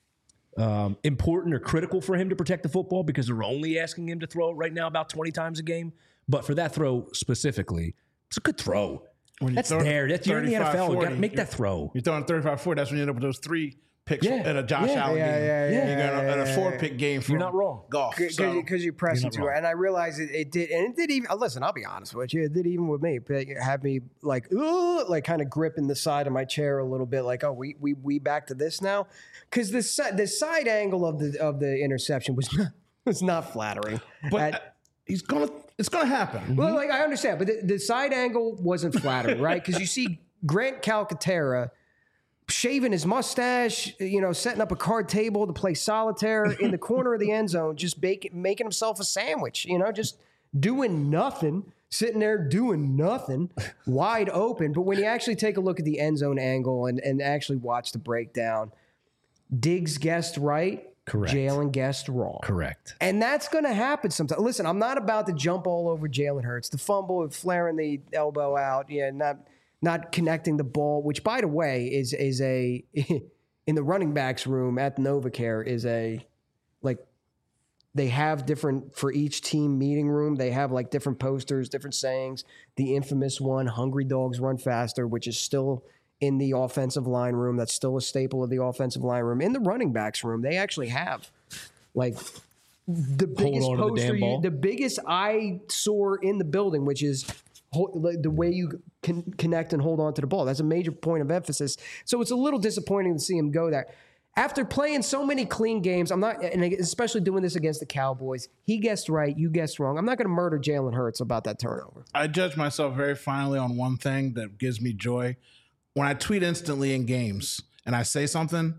um, important or critical for him to protect the football because they're only asking him to throw it right now about twenty times a game. But for that throw specifically, it's a good throw. That's there. That's you're in the N F L. You got to make that throw. You're throwing thirty-five forty. That's when you end up with those three picks yeah. in a Josh yeah. Allen yeah, game. Yeah, yeah, You're yeah, going yeah, a four pick game for You're not wrong. Golf. Because So. you, you're pressing to it. And I realize it, it did, and it did even, listen, I'll be honest with you, it did even with me, but it had me like, ooh, like kind of gripping the side of my chair a little bit, like, oh, we we we back to this now? Because the, si- the side angle of the of the interception was not, was not flattering. But At, he's going to, it's going to happen. well, like, I understand, but the, the side angle wasn't flattering, right? Because you see Grant Calcaterra shaving his mustache, you know, setting up a card table to play solitaire in the corner of the end zone, just bake, making himself a sandwich, you know, just doing nothing, sitting there doing nothing, wide open. But when you actually take a look at the end zone angle and, and actually watch the breakdown, Diggs guessed right. Correct. Jalen guessed wrong. Correct. And that's going to happen sometimes. Listen, I'm not about to jump all over Jalen Hurts. The fumble, flaring the elbow out, yeah, not not connecting the ball, which, by the way, is is a in the running backs room at NovaCare is a like they have different for each team meeting room. They have like different posters, different sayings. The infamous one, "Hungry dogs run faster," which is still in the offensive line room. That's still a staple of the offensive line room. In the running backs room, they actually have like the biggest on to the poster, damn you, ball. the biggest eyesore in the building, which is the way you can connect and hold on to the ball. That's a major point of emphasis. So it's a little disappointing to see him go there. After playing so many clean games, I'm not, and especially doing this against the Cowboys, he guessed right, you guessed wrong. I'm not going to murder Jalen Hurts about that turnover. I judge myself very finely on one thing that gives me joy. When I tweet instantly in games and I say something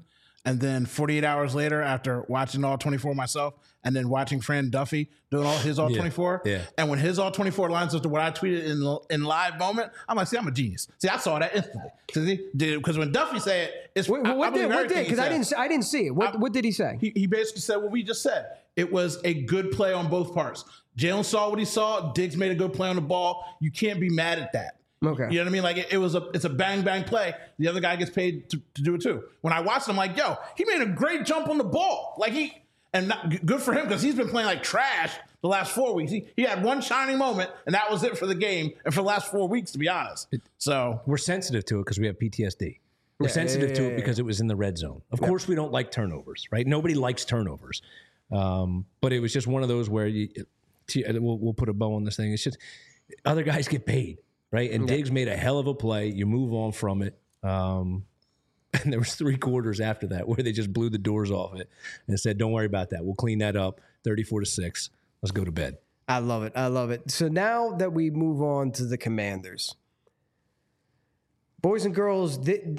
And then forty-eight hours later, after watching all twenty-four myself, and then watching Fran Duffy doing all his all twenty-four, yeah. and when his all twenty-four lines up to what I tweeted in in live moment, I'm like, see, I'm a genius. See, I saw that instantly. See, because when Duffy said it, it's Wait, I, what I did what did because I didn't I didn't see it. What I, what did he say? He, he basically said what we just said. It was a good play on both parts. Jalen saw what he saw. Diggs made a good play on the ball. You can't be mad at that. Okay. You know what I mean? Like it, it was a it's a bang bang play. The other guy gets paid to, to do it too. When I watched him, I'm like, yo, he made a great jump on the ball. Like he and not, good for him because he's been playing like trash the last four weeks. He he had one shining moment and that was it for the game and for the last four weeks, to be honest. So we're sensitive to it because we have P T S D. We're yeah, sensitive yeah, yeah, to yeah, it because it was in the red zone. Of yeah. course, we don't like turnovers, right? Nobody likes turnovers. Um, but it was just one of those where you we'll, we'll put a bow on this thing. It's just other guys get paid. Right, and yeah. Diggs made a hell of a play. You move on from it, um, and there was three quarters after that where they just blew the doors off it and said, "Don't worry about that. We'll clean that up." Thirty-four to six. Let's go to bed. I love it. I love it. So now that we move on to the Commanders, boys and girls, th-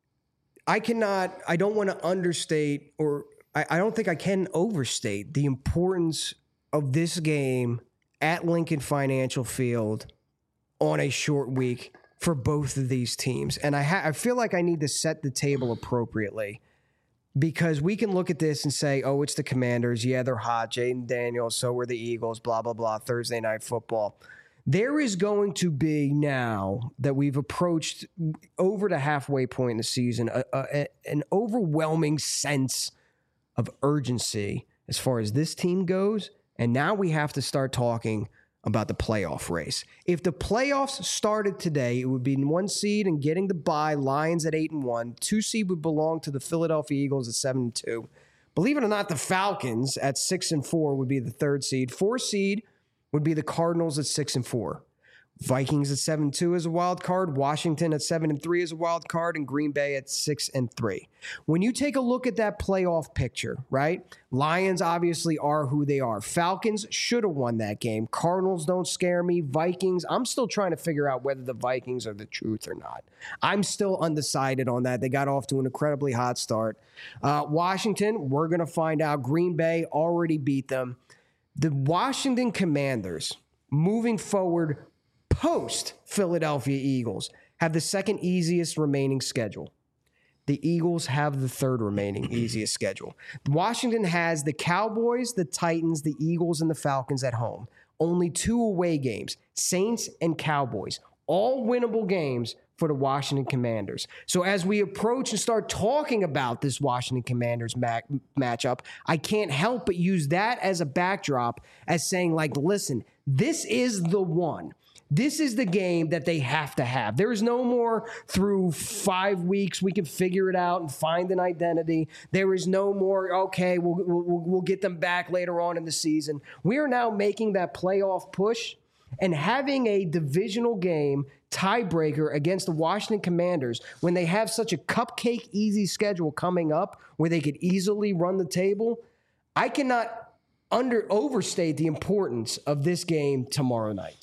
I cannot. I don't want to understate, or I, I don't think I can overstate the importance of this game at Lincoln Financial Field on a short week for both of these teams. And I, ha- I feel like I need to set the table appropriately because we can look at this and say, oh, it's the Commanders. Yeah, they're hot. Jaden Daniels, so were the Eagles, blah, blah, blah, Thursday Night Football. There is going to be, now that we've approached over the halfway point in the season, a, a, an overwhelming sense of urgency as far as this team goes. And now we have to start talking about the playoff race. If the playoffs started today, it would be in one seed and getting the bye, Lions at eight and one. Two seed would belong to the Philadelphia Eagles at seven and two. Believe it or not, the Falcons at six and four would be the third seed. Four seed would be the Cardinals at six and four. Vikings at seven and two as a wild card, Washington at seven and three as a wild card, and Green Bay at six and three. When you take a look at that playoff picture, right? Lions obviously are who they are. Falcons should have won that game. Cardinals don't scare me. Vikings, I'm still trying to figure out whether the Vikings are the truth or not. I'm still undecided on that. They got off to an incredibly hot start. Uh, Washington, we're going to find out. Green Bay already beat them. The Washington Commanders, moving forward post Philadelphia Eagles, have the second easiest remaining schedule. The Eagles have the third remaining easiest schedule. Washington has the Cowboys, the Titans, the Eagles, and the Falcons at home. Only two away games, Saints and Cowboys, all winnable games for the Washington Commanders. So as we approach and start talking about this Washington Commanders ma- matchup, I can't help but use that as a backdrop as saying, like, listen, this is the one. This is the game that they have to have. There is no more through five weeks we can figure it out and find an identity. There is no more, okay, we'll, we'll, we'll get them back later on in the season. We are now making that playoff push and having a divisional game tiebreaker against the Washington Commanders when they have such a cupcake easy schedule coming up where they could easily run the table. I cannot under overstate the importance of this game tomorrow night.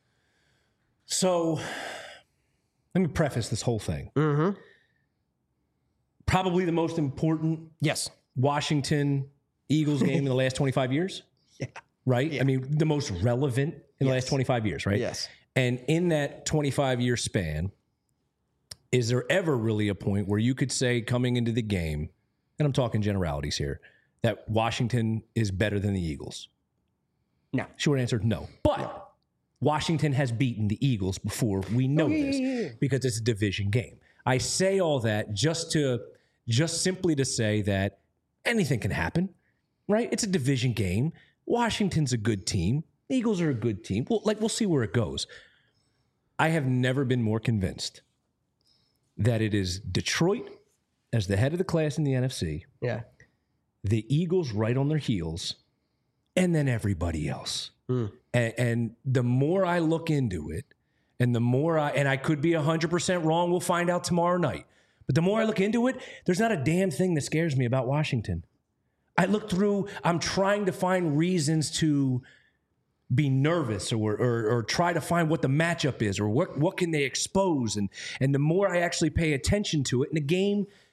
So let me preface this whole thing. Mm-hmm. Probably the most important yes. Washington Eagles game in the last twenty-five years. Yeah. Right? Yeah. I mean, the most relevant in the yes. last twenty-five years, right? Yes. And in that twenty-five year span, is there ever really a point where you could say coming into the game, and I'm talking generalities here, that Washington is better than the Eagles? No. Short answer, no. But no. Washington has beaten the Eagles before. We know oh, yeah, this yeah, yeah. because it's a division game. I say all that just to just simply to say that anything can happen, right? It's a division game. Washington's a good team. The Eagles are a good team. Well, like we'll see where it goes. I have never been more convinced that it is Detroit as the head of the class in the N F C. Yeah. The Eagles right on their heels, and then everybody else. Mm. And, and the more I look into it, and the more I, and I could be one hundred percent wrong, we'll find out tomorrow night. But the more I look into it, there's not a damn thing that scares me about Washington. I look through, I'm trying to find reasons to be nervous or, or or try to find what the matchup is or what, what can they expose. And, and the more I actually pay attention to it, and the game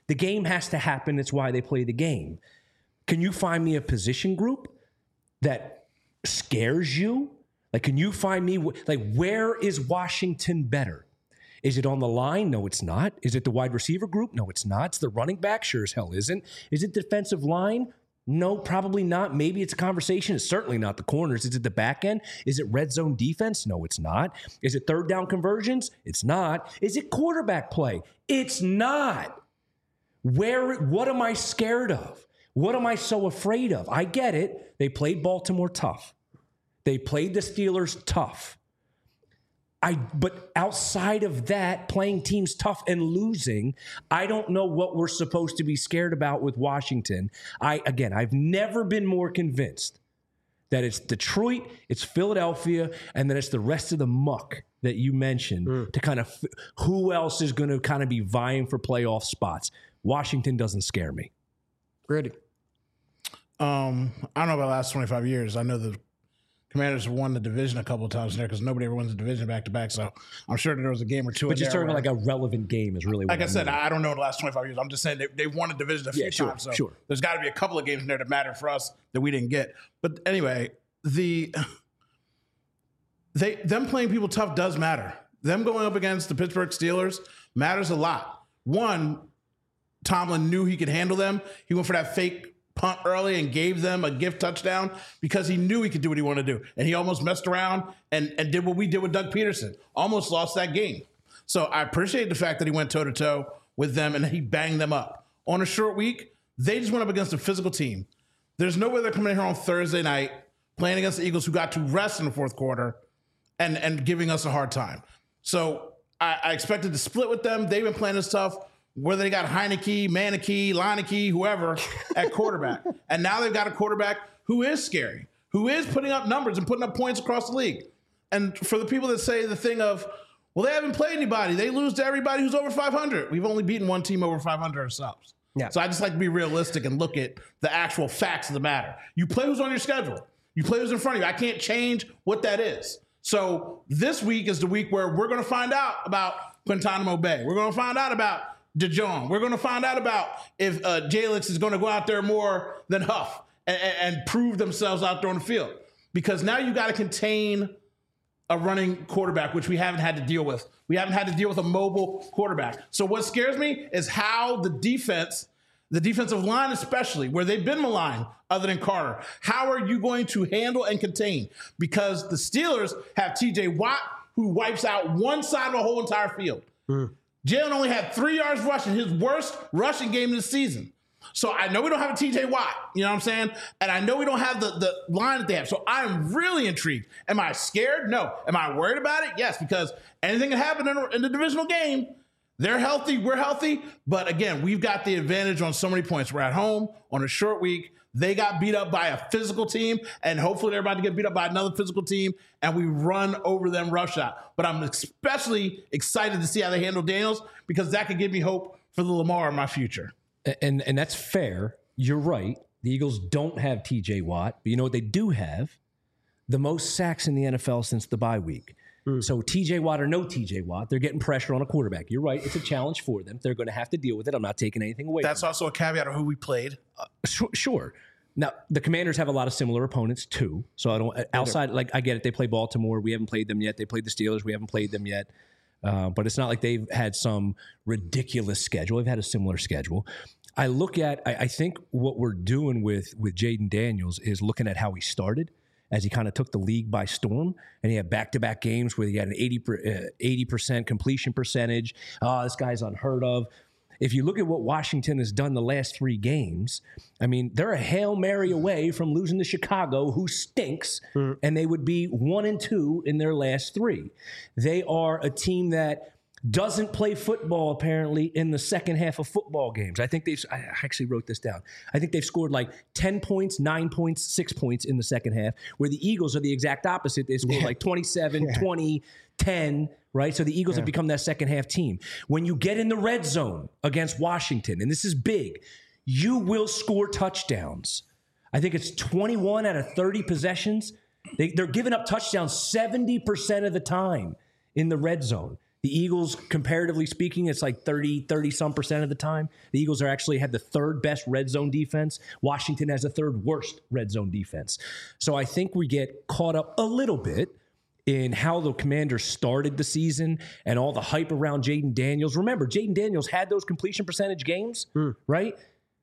The game has to happen. It's why they play the game. Can you find me a position group that scares you? Like, can you find me, like, where is Washington better? Is it on the line? No, it's not. Is it the wide receiver group? No, it's not. It's the running back? Sure as hell isn't. Is it defensive line? No, probably not. Maybe it's a conversation. It's certainly not the corners. Is it the back end? Is it red zone defense? No, it's not. Is it third down conversions? It's not. Is it quarterback play? It's not. Where? What am I scared of? What am I so afraid of? I get it. They played Baltimore tough. They played the Steelers tough. I, but outside of that, playing teams tough and losing, I don't know what we're supposed to be scared about with Washington. I again, I've never been more convinced that it's Detroit, it's Philadelphia, and then it's the rest of the muck that you mentioned mm. to kind of who else is going to kind of be vying for playoff spots. Washington doesn't scare me. Ready? Um, I don't know about the last twenty-five years. I know the Commanders have won the division a couple of times there because nobody ever wins the division back to back. So I'm sure that there was a game or two. But just talking where, like a relevant game is really what like I, I said. mean. I don't know the last twenty-five years. I'm just saying they, they've won a division a few yeah, sure, times. So sure. there's got to be a couple of games in there that matter for us that we didn't get. But anyway, the they them playing people tough does matter. Them going up against the Pittsburgh Steelers matters a lot. One, Tomlin knew he could handle them. He went for that fake punt early and gave them a gift touchdown because he knew he could do what he wanted to do. And he almost messed around and, and did what we did with Doug Peterson. Almost lost that game. So I appreciate the fact that he went toe-to-toe with them and he banged them up. On a short week, they just went up against a physical team. There's no way they're coming in here on Thursday night playing against the Eagles who got to rest in the fourth quarter and, and giving us a hard time. So I, I expected to split with them. They've been playing this tough. Whether they got Heineke, Maneke, Leineke, whoever at quarterback. And now they've got a quarterback who is scary, who is putting up numbers and putting up points across the league. And for the people that say the thing of, well, they haven't played anybody. They lose to everybody who's over five hundred. We've only beaten one team over five hundred ourselves. Yeah. So I just like to be realistic and look at the actual facts of the matter. You play who's on your schedule. You play who's in front of you. I can't change what that is. So this week is the week where we're going to find out about Guantanamo Bay. We're going to find out about DeJong. We're going to find out about if uh, Jalix is going to go out there more than Huff and, and, and prove themselves out there on the field. Because now you got to contain a running quarterback, which we haven't had to deal with. We haven't had to deal with a mobile quarterback. So what scares me is how the defense, the defensive line especially, where they've been maligned other than Carter, how are you going to handle and contain? Because the Steelers have T J Watt, who wipes out one side of the whole entire field. Mm. Jalen only had three yards rushing, his worst rushing game this season. So I know we don't have a T J Watt, you know what I'm saying? And I know we don't have the, the line that they have. So I'm really intrigued. Am I scared? No. Am I worried about it? Yes, because anything can happen in, in the divisional game. They're healthy, we're healthy. But again, we've got the advantage on so many points. We're at home on a short week. They got beat up by a physical team, and hopefully they're about to get beat up by another physical team, and we run over them roughshod. But I'm especially excited to see how they handle Daniels because that could give me hope for the Lamar in my future. And and that's fair. You're right. The Eagles don't have T J Watt, but you know what they do have? The most sacks in the N F L since the bye week. Mm. So T J Watt or no T J Watt, they're getting pressure on a quarterback. You're right. It's a challenge for them. They're going to have to deal with it. I'm not taking anything away. That's from also them. a caveat of who we played. Uh, sure, sure. Now, the Commanders have a lot of similar opponents, too. So I don't, outside, like, I get it. They play Baltimore. We haven't played them yet. They played the Steelers. We haven't played them yet. Uh, but it's not like they've had some ridiculous schedule. They've had a similar schedule. I look at, I, I think what we're doing with, with Jaden Daniels is looking at how he started as he kind of took the league by storm. And he had back-to-back games where he had an eighty percent completion percentage. Oh, this guy's unheard of. If you look at what Washington has done the last three games, I mean, they're a Hail Mary away from losing to Chicago, who stinks, mm. and they would be one and two in their last three. They are a team that doesn't play football, apparently, in the second half of football games. I think they've, I actually wrote this down. I think they've scored like ten points, nine points, six points in the second half, where the Eagles are the exact opposite. They scored yeah. like twenty-seven, yeah. twenty, ten, right? So the Eagles yeah. have become that second half team. When you get in the red zone against Washington, and this is big, you will score touchdowns. I think it's twenty-one out of thirty possessions. They, they're giving up touchdowns seventy percent of the time in the red zone. The Eagles, comparatively speaking, it's like thirty, thirty some percent of the time. The Eagles are actually had the third best red zone defense. Washington has the third worst red zone defense. So I think we get caught up a little bit in how the Commanders started the season and all the hype around Jaden Daniels. Remember, Jaden Daniels had those completion percentage games, mm. right?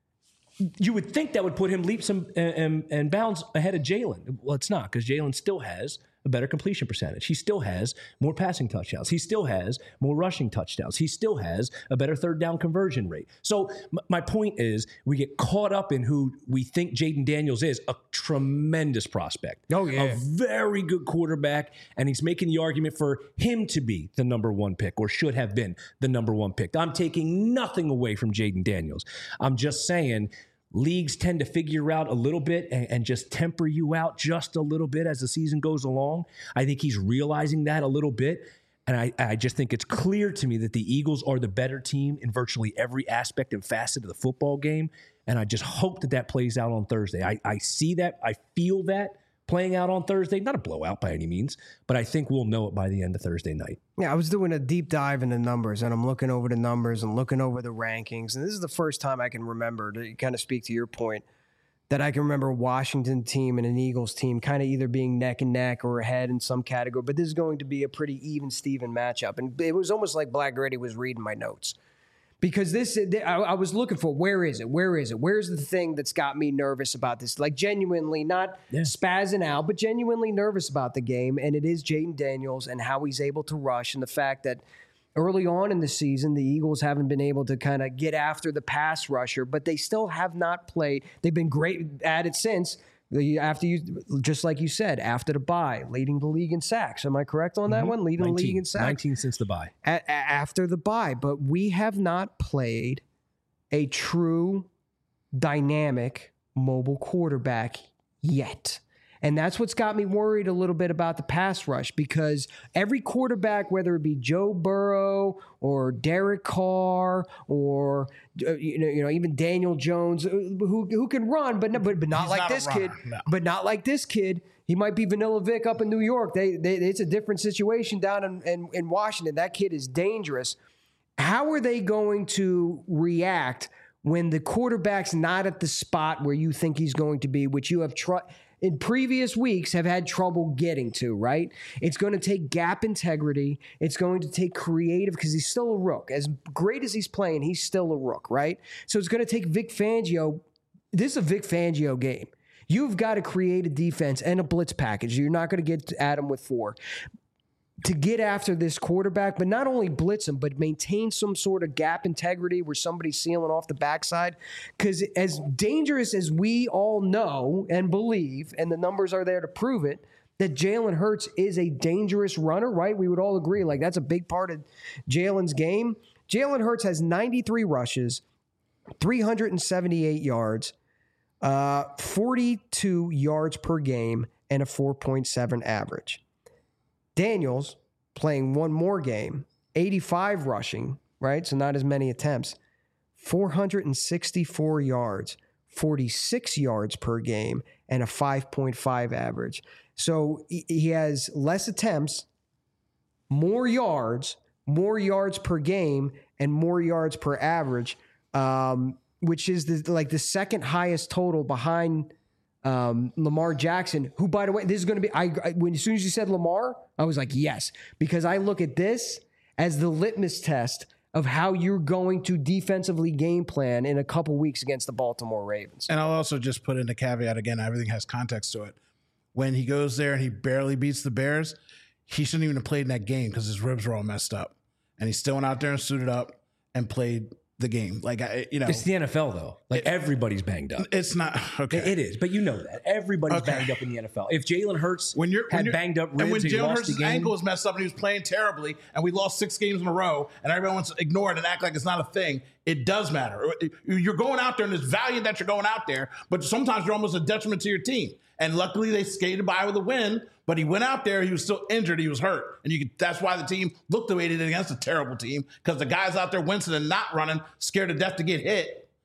You would think that would put him leaps and, and, and bounds ahead of Jalen. Well, it's not, because Jalen still has a better completion percentage. He still has more passing touchdowns. He still has more rushing touchdowns. He still has a better third down conversion rate. So m- my point is, we get caught up in who we think Jaden Daniels is, a tremendous prospect. Oh, yeah. A very good quarterback, and he's making the argument for him to be the number one pick, or should have been the number one pick. I'm taking nothing away from Jaden Daniels. I'm just saying, leagues tend to figure out a little bit and, and just temper you out just a little bit as the season goes along. I think he's realizing that a little bit. And I, I just think it's clear to me that the Eagles are the better team in virtually every aspect and facet of the football game. And I just hope that that plays out on Thursday. I, I see that. I feel that playing out on Thursday. Not a blowout by any means, but I think we'll know it by the end of Thursday night. Yeah, I was doing a deep dive into numbers, and I'm looking over the numbers and looking over the rankings. And this is the first time I can remember, to kind of speak to your point, that I can remember a Washington team and an Eagles team kind of either being neck and neck or ahead in some category. But this is going to be a pretty even-Steven matchup. And it was almost like Black Gritty was reading my notes. Because this, I, I was looking for, where is it? Where is it? Where's the thing that's got me nervous about this? Like, genuinely, not yeah. spazzing out, but genuinely nervous about the game. And it is Jaden Daniels and how he's able to rush, and the fact that early on in the season, the Eagles haven't been able to kind of get after the pass rusher, but they still have not played. They've been great at it since. After you, just like you said, after the bye, leading the league in sacks. Am I correct on that mm-hmm. one? Leading nineteen, the league in sacks. nineteen since the bye. A- a- after the bye. But we have not played a true dynamic mobile quarterback yet. And that's what's got me worried a little bit about the pass rush, because every quarterback, whether it be Joe Burrow or Derek Carr or uh, you know, you know, even Daniel Jones, who who can run, but but, but not He's like not this runner, kid. no. But not like this kid. He might be Vanilla Vic up in New York. They, they it's a different situation down in, in, in Washington. That kid is dangerous. How are they going to react when the quarterback's not at the spot where you think he's going to be, which you have tr- in previous weeks have had trouble getting to, right? It's going to take gap integrity. It's going to take creative, because he's still a rook. As great as he's playing, he's still a rook, right? So it's going to take Vic Fangio. This is a Vic Fangio game. You've got to create a defense and a blitz package. You're not going to get at him with four. To get after this quarterback, but not only blitz him, but maintain some sort of gap integrity where somebody's sealing off the backside. Because as dangerous as we all know and believe, and the numbers are there to prove it, that Jalen Hurts is a dangerous runner, right? We would all agree. Like, that's a big part of Jalen's game. Jalen Hurts has ninety-three rushes, three hundred seventy-eight yards, uh, forty-two yards per game, and a four point seven average. Daniels playing one more game, eighty-five rushing, right? So not as many attempts, four hundred sixty-four yards, forty-six yards per game, and a five point five average. So he has less attempts, more yards, more yards per game, and more yards per average, um, which is the, like the second highest total behind Um, Lamar Jackson, who, by the way, this is going to be, I, I when as soon as you said Lamar, I was like, yes, because I look at this as the litmus test of how you're going to defensively game plan in a couple weeks against the Baltimore Ravens. And I'll also just put in a caveat again, everything has context to it. When he goes there and he barely beats the Bears, he shouldn't even have played in that game because his ribs were all messed up. And he still went out there and suited up and played the game. Like, I, you know, it's the N F L though. Like, it, everybody's banged up. It's not okay. It is, but you know that everybody's okay. banged up in the N F L. If Jalen Hurts when you're, had when you're, banged up ribs and when and Jalen lost Hurts' the game, ankle was messed up and he was playing terribly, and we lost six games in a row, and everyone wants to ignore it and act like it's not a thing. It does matter. You're going out there, and it's valiant that you're going out there, but sometimes you're almost a detriment to your team. And luckily, they skated by with a win. But he went out there. He was still injured. He was hurt, and you could, that's why the team looked the way they did against a terrible team, because the guys out there wincing and not running, scared to death to get hit.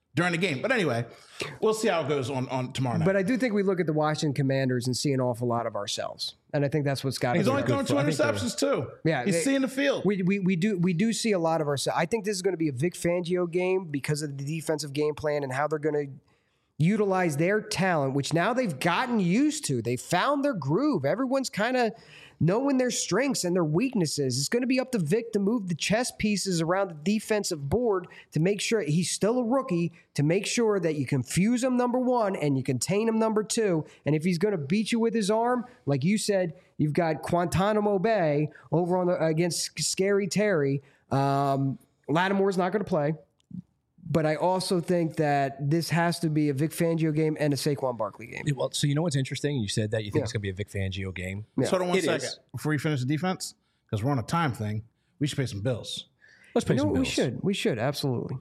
during the game. But anyway, we'll see how it goes on, on tomorrow night. But I do think we look at the Washington Commanders and see an awful lot of ourselves. And I think that's what's got to be. He's only throwing two interceptions too. Yeah, he's they, seeing the field. We, we we do we do see a lot of ourselves. I think this is going to be a Vic Fangio game because of the defensive game plan and how they're going to utilize their talent, which now they've gotten used to. They found their groove. Everyone's kind of knowing their strengths and their weaknesses. It's going to be up to Vic to move the chess pieces around the defensive board to make sure he's still a rookie, to make sure that you confuse him, number one, and you contain him, number two. And if he's going to beat you with his arm, like you said, you've got Guantanamo Bay over on the, against Scary Terry. Um, Lattimore's not going to play. But I also think that this has to be a Vic Fangio game and a Saquon Barkley game. Well, so you know what's interesting? You said that you think Yeah. it's going to be a Vic Fangio game. Yeah. So hold on one It second is. before you finish the defense, because we're on a time thing. We should pay some bills. Let's pay You know, some we bills. should. We should, absolutely.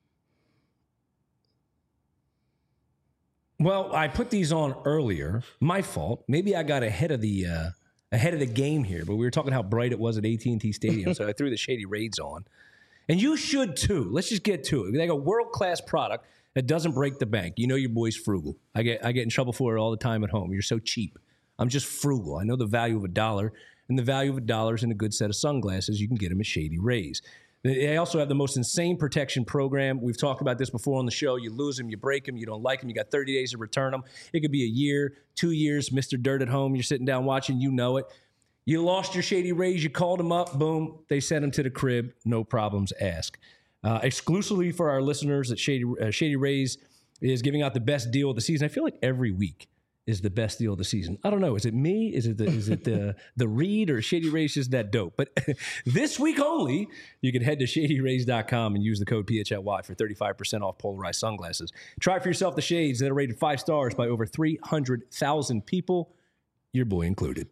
Well, I put these on earlier. My fault. Maybe I got ahead of the uh, ahead of the game here. But we were talking how bright it was at A T and T Stadium, so I threw the Shady Raids on. And you should too. Let's just get to it. They got a world-class product that doesn't break the bank. You know your boy's frugal. I get I get in trouble for it all the time at home. You're so cheap. I'm just frugal. I know the value of a dollar, and the value of a dollar is in a good set of sunglasses. You can get them at Shady Rays. They also have the most insane protection program. We've talked about this before on the show. You lose them, you break them, you don't like them, you got thirty days to return them. It could be a year, two years, Mister Dirt at home. You're sitting down watching, you know it. You lost your Shady Rays, you called them up, boom, they sent them to the crib, no problems asked. Uh, exclusively for our listeners at Shady, uh, Shady Rays is giving out the best deal of the season. I feel like every week is the best deal of the season. I don't know. Is it me? Is it the, is it the, the read or Shady Rays is that dope? But this week only, you can head to shady rays dot com and use the code P H L Y for thirty-five percent off polarized sunglasses. Try for yourself the shades that are rated five stars by over three hundred thousand people, your boy included.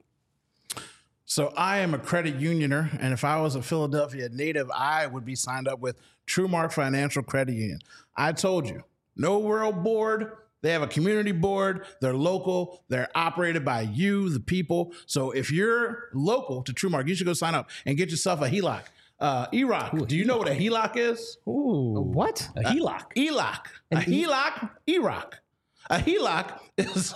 So I am a credit unioner, and if I was a Philadelphia native, I would be signed up with TrueMark Financial Credit Union. I told you, no world board. They have a community board. They're local. They're operated by you, the people. So if you're local to TrueMark, you should go sign up and get yourself a H E L O C. Uh, E R O C. Do you know what a H E L O C is? Ooh. What? A H E L O C. E L O C. A H E L O C, E R O C. A H E L O C is,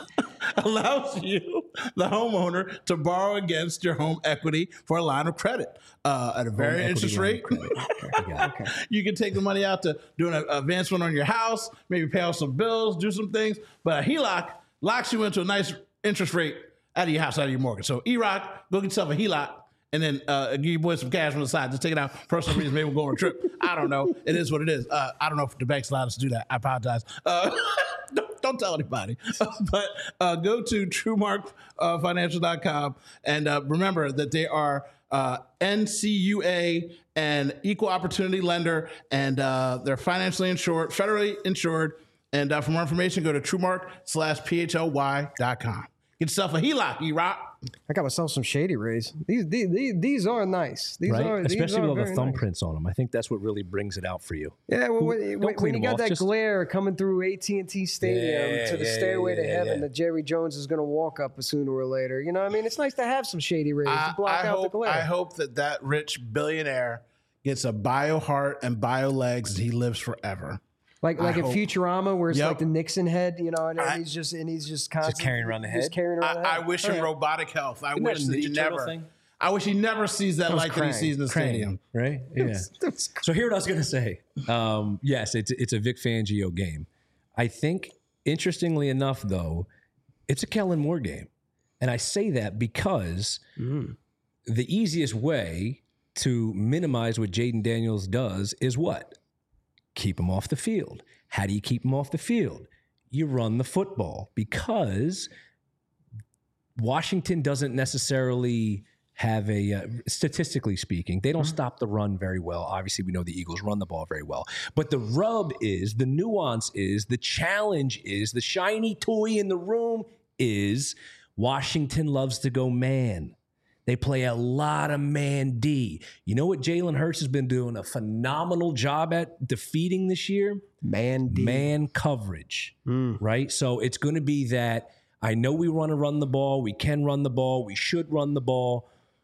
allows you, the homeowner, to borrow against your home equity for a line of credit uh, at a very Home interest equity rate. line of credit. Okay, I got it. You can take the money out to do an advancement on your house, maybe pay off some bills, do some things. But a H E L O C locks you into a nice interest rate out of your house, out of your mortgage. So E R O C, go get yourself a H E L O C. And then uh, give your boys some cash on the side. Just take it out for personal reasons. Maybe we'll go on a trip. I don't know. It is what it is. Uh, I don't know if the bank's allowed us to do that. I apologize. Uh, don't, don't tell anybody. But uh, go to true mark financial dot com and uh, remember that they are uh, N C U A and equal opportunity lender, and uh, they're financially insured, federally insured. And uh, for more information, go to TrueMark slash P H L Y dot com. Get yourself a H E L O C, E-Rock. I got myself some Shady Rays. These these, these, these are nice. These Right? are these Especially are with all the very thumbprints on them. I think that's what really brings it out for you. nice. Yeah, well, when, Don't when, clean when you them got off, that just- glare coming through A T and T Stadium Yeah, to the yeah, stairway yeah, to yeah, heaven yeah. that Jerry Jones is going to walk up sooner or later. You know what I mean? It's nice to have some Shady Rays I, to block I out hope, the glare. I hope that that rich billionaire gets a bio heart and bio legs and he lives forever. Like like I in hope- Futurama, where it's Yep. like the Nixon head, you know, and I- he's just and he's just constantly carrying around the just head? carrying around the I, head. I wish him robotic health. I Isn't that wish a that he Ninja Turtle never. thing? I wish he never sees that was light that he Krang. sees in the stadium. Right? Yeah. So here what I was going to say. Um, yes, it's it's a Vic Fangio game. I think, interestingly enough, though, it's a Kellen Moore game. And I say that because Mm. the easiest way to minimize what Jaden Daniels does is what? Keep him off the field. How do you keep him off the field? You run the football, because Washington doesn't necessarily have a, uh, statistically speaking, they don't stop the run very well. Obviously, we know the Eagles run the ball very well. But the rub is, the nuance is, the challenge is, the shiny toy in the room is Washington loves to go man. They play a lot of man D. You know what Jalen Hurts has been doing a phenomenal job at defeating this year? Man D. Man coverage, right? So it's going to be that I know we want to run the ball. We can run the ball. We should run the ball.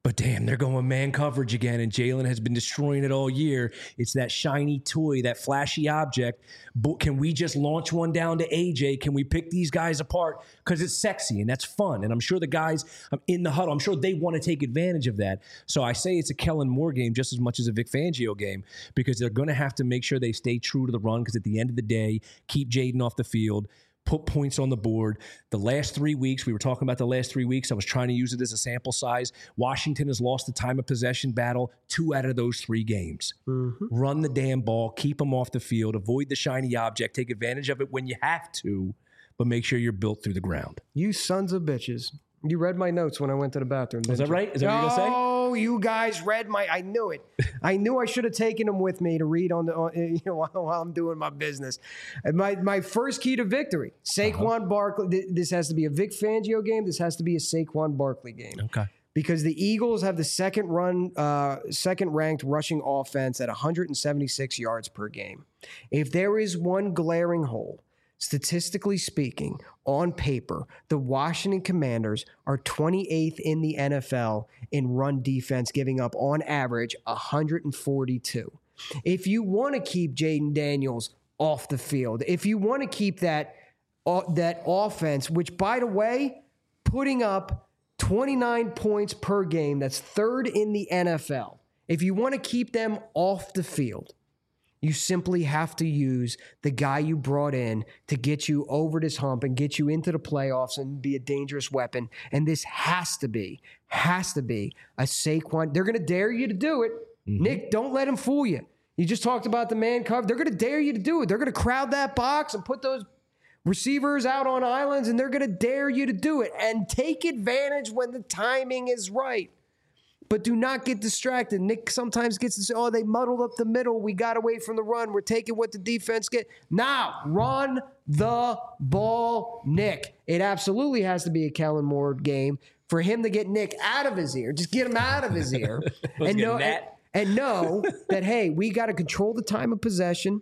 But damn, they're going man coverage again, and Jalen has been destroying it all year. It's that shiny toy, that flashy object. But can we just launch one down to A J? Can we pick these guys apart? Because it's sexy and that's fun. And I'm sure the guys in the huddle, I'm sure they want to take advantage of that. So I say it's a Kellen Moore game just as much as a Vic Fangio game, because they're going to have to make sure they stay true to the run, because at the end of the day, keep Jaden off the field, put points on the board. The last three weeks, we were talking about the last three weeks. I was trying to use it as a sample size. Washington has lost the time of possession battle two out of those three games. Mm-hmm. Run the damn ball, keep them off the field, avoid the shiny object, take advantage of it when you have to, but make sure you're built through the ground. You sons of bitches. You read my notes when I went to the bathroom. Is that you? right? Is that what you're going to say? Oh, you guys read my. I knew it. I knew I should have taken them with me to read on the, on, you know, while, while I'm doing my business. And my my first key to victory: Saquon uh-huh. Barkley. This has to be a Vic Fangio game. This has to be a Saquon Barkley game. Okay. Because the Eagles have the second run, uh, second ranked rushing offense at one hundred seventy-six yards per game. If there is one glaring hole, statistically speaking, on paper, the Washington Commanders are twenty-eighth in the N F L in run defense, giving up on average one hundred forty-two. If you want to keep Jaden Daniels off the field, if you want to keep that, uh, that offense, which, by the way, putting up twenty-nine points per game, that's third in the N F L. If you want to keep them off the field, you simply have to use the guy you brought in to get you over this hump and get you into the playoffs and be a dangerous weapon. And this has to be, has to be a Saquon. They're going to dare you to do it. Mm-hmm. Nick, don't let them fool you. You just talked about the man cover. They're going to dare you to do it. They're going to crowd that box and put those receivers out on islands, and they're going to dare you to do it. And take advantage when the timing is right. But do not get distracted. Nick sometimes gets to say, oh, they muddled up the middle. We got away from the run. We're taking what the defense get. Now, run the ball, Nick. It absolutely has to be a Kellen Moore game for him to get Nick out of his ear. Just get him out of his ear. and, know, and, and know that, hey, we got to control the time of possession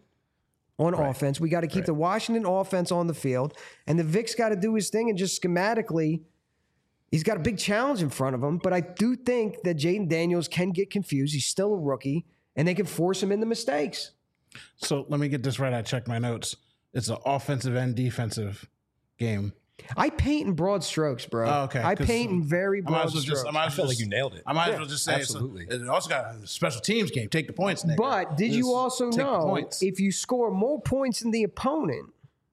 on right. offense. We got to keep right. the Washington offense on the field. And the Vic's got to do his thing and just schematically – he's got a big challenge in front of him, but I do think that Jaden Daniels can get confused. He's still a rookie, and they can force him into mistakes. So let me get this right. I checked my notes. It's an offensive and defensive game. I paint in broad strokes, bro. Oh, okay. I paint in very broad strokes. Just, I, might I feel like you nailed it. I might yeah, as well just say absolutely. It also got a special teams game. Take the points, Nick. But did just you also know if you score more points than the opponent,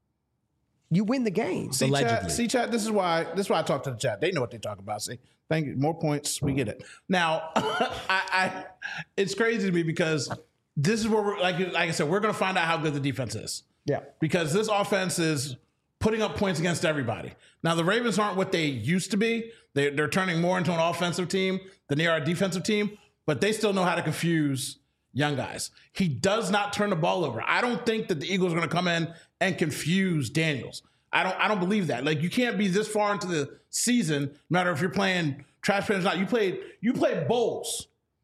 you win the game. See, chat, see, chat, this is why this is why I talk to the chat. They know what they talk about. See, thank you. More points, we get it. Now, I, I it's crazy to me because this is where we're like like I said, we're gonna find out how good the defense is. Yeah. Because this offense is putting up points against everybody. Now, the Ravens aren't what they used to be. They, they're turning more into an offensive team than they are a defensive team, but they still know how to confuse young guys. He does not turn the ball over. I don't think that the Eagles are going to come in and confuse Daniels. I don't I don't believe that. Like, you can't be this far into the season, no matter if you're playing trash pans or not. You played you played bowls,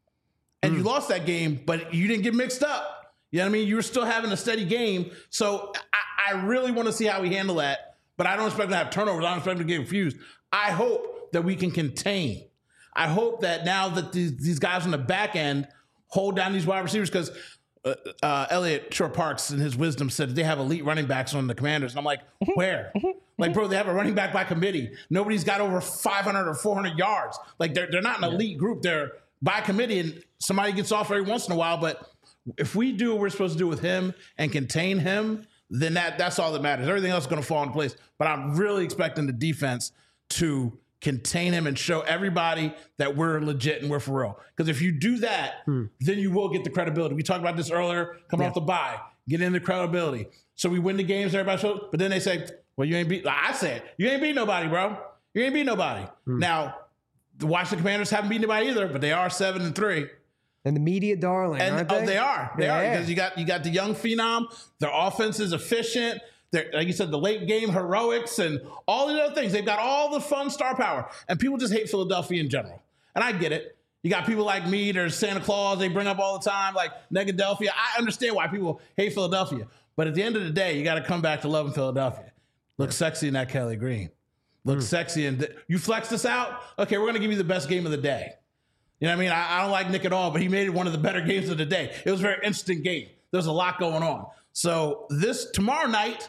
and mm. you lost that game, but you didn't get mixed up. You know what I mean? You were still having a steady game. So I, I really want to see how we handle that, but I don't expect to have turnovers. I don't expect to get confused. I hope that we can contain. I hope that now that these, these guys on the back end hold down these wide receivers, because uh, uh, Elliot Shore Parks in his wisdom said that they have elite running backs on the Commanders. And I'm like, where? Like, bro, they have a running back by committee. Nobody's got over five hundred or four hundred yards. Like, they're, they're not an elite group. They're by committee, and somebody gets off every once in a while. But if we do what we're supposed to do with him and contain him, then that that's all that matters. Everything else is going to fall into place. But I'm really expecting the defense to contain him and show everybody that we're legit and we're for real. Because if you do that, hmm. then you will get the credibility. We talked about this earlier, coming yeah. off the bye, get into credibility. So we win the games, everybody shows, but then they say, well, you ain't beat, like I said, you ain't beat nobody, bro. You ain't beat nobody. Hmm. Now, the Washington Commanders haven't beat anybody either, but they are seven and three. And the media darling, and, aren't they? Oh, they are. They yeah. are, because you got you got the young phenom. Their offense is efficient. They're, like you said, the late game heroics and all the other things. They've got all the fun star power. And people just hate Philadelphia in general. And I get it. You got people like me, there's Santa Claus, they bring up all the time, like Negadelphia. I understand why people hate Philadelphia. But at the end of the day, you got to come back to loving Philadelphia. Look yeah. sexy in that Kelly Green. Look mm. sexy. And th- you flex this out? Okay, we're going to give you the best game of the day. You know what I mean? I, I don't like Nick at all, but he made it one of the better games of the day. It was a very interesting game. There's a lot going on. So this tomorrow night,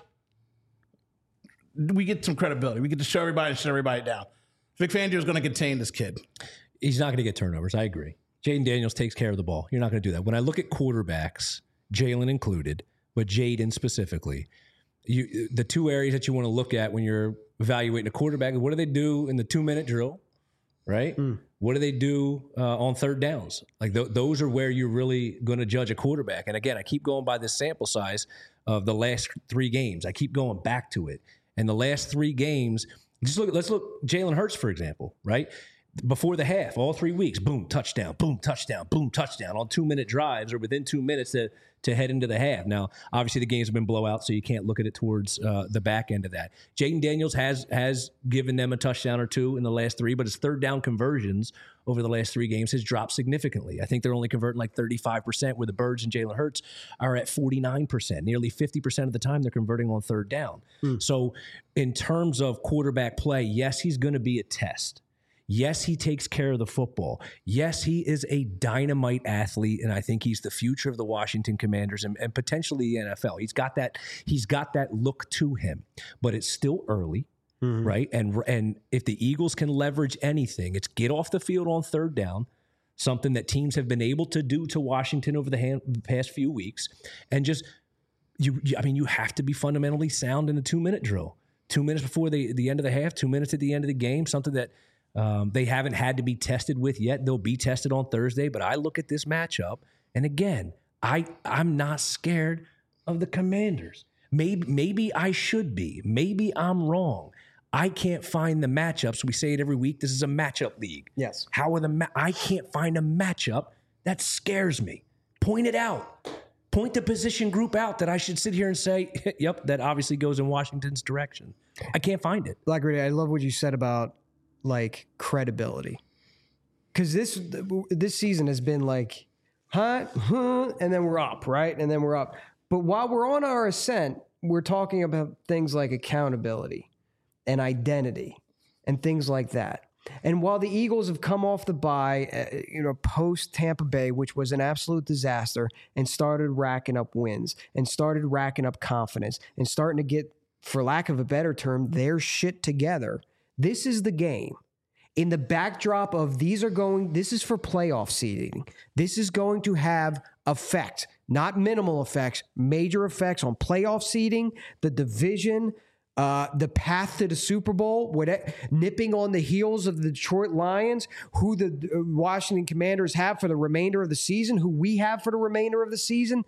we get some credibility. We get to show everybody and shut everybody down. Vic Fangio is going to contain this kid. He's not going to get turnovers. I agree. Jaden Daniels takes care of the ball. You're not going to do that. When I look at quarterbacks, Jalen included, but Jaden specifically, you, the two areas that you want to look at when you're evaluating a quarterback, what do they do in the two-minute drill, right? Mm. What do they do uh, on third downs? Like th- those are where you're really going to judge a quarterback. And again, I keep going by this sample size of the last three games. I keep going back to it. And the last three games, just look. Let's look. Jalen Hurts, for example, right before the half, all three weeks, boom, touchdown, boom, touchdown, boom, touchdown on two-minute drives or within two minutes to to head into the half. Now, obviously, the games have been blowout, so you can't look at it towards uh, the back end of that. Jaden Daniels has has given them a touchdown or two in the last three, but his third down conversions over the last three games has dropped significantly. I think they're only converting like thirty-five percent, where the Birds and Jalen Hurts are at forty-nine percent. Nearly fifty percent of the time they're converting on third down. Hmm. So in terms of quarterback play, yes, he's going to be a test. Yes, he takes care of the football. Yes, he is a dynamite athlete, and I think he's the future of the Washington Commanders and, and potentially the N F L. He's got that. He's got that look to him, but it's still early, mm-hmm. right? And and if the Eagles can leverage anything, it's get off the field on third down, something that teams have been able to do to Washington over the hand, past few weeks, and just you. I mean, you have to be fundamentally sound in the two-minute drill. Two minutes before the the end of the half, two minutes at the end of the game, something that. Um, they haven't had to be tested with yet. They'll be tested on Thursday. But I look at this matchup, and again, I I'm not scared of the Commanders. Maybe maybe I should be. Maybe I'm wrong. I can't find the matchups. We say it every week. This is a matchup league. Yes. How are the ma- I can't find a matchup that scares me. Point it out. Point the position group out that I should sit here and say, yep, that obviously goes in Washington's direction. I can't find it. Blackberry, I love what you said about like credibility, because this this season has been like, huh, huh, and then we're up, right, and then we're up. But while we're on our ascent, we're talking about things like accountability and identity and things like that. And while the Eagles have come off the bye, uh, you know, post Tampa Bay, which was an absolute disaster, and started racking up wins and started racking up confidence and starting to get, for lack of a better term, their shit together. This is the game. In the backdrop of these are going, this is for playoff seeding. This is going to have effect, not minimal effects, major effects on playoff seeding, the division, uh, the path to the Super Bowl, whatever, nipping on the heels of the Detroit Lions, who the Washington Commanders have for the remainder of the season, who we have for the remainder of the season.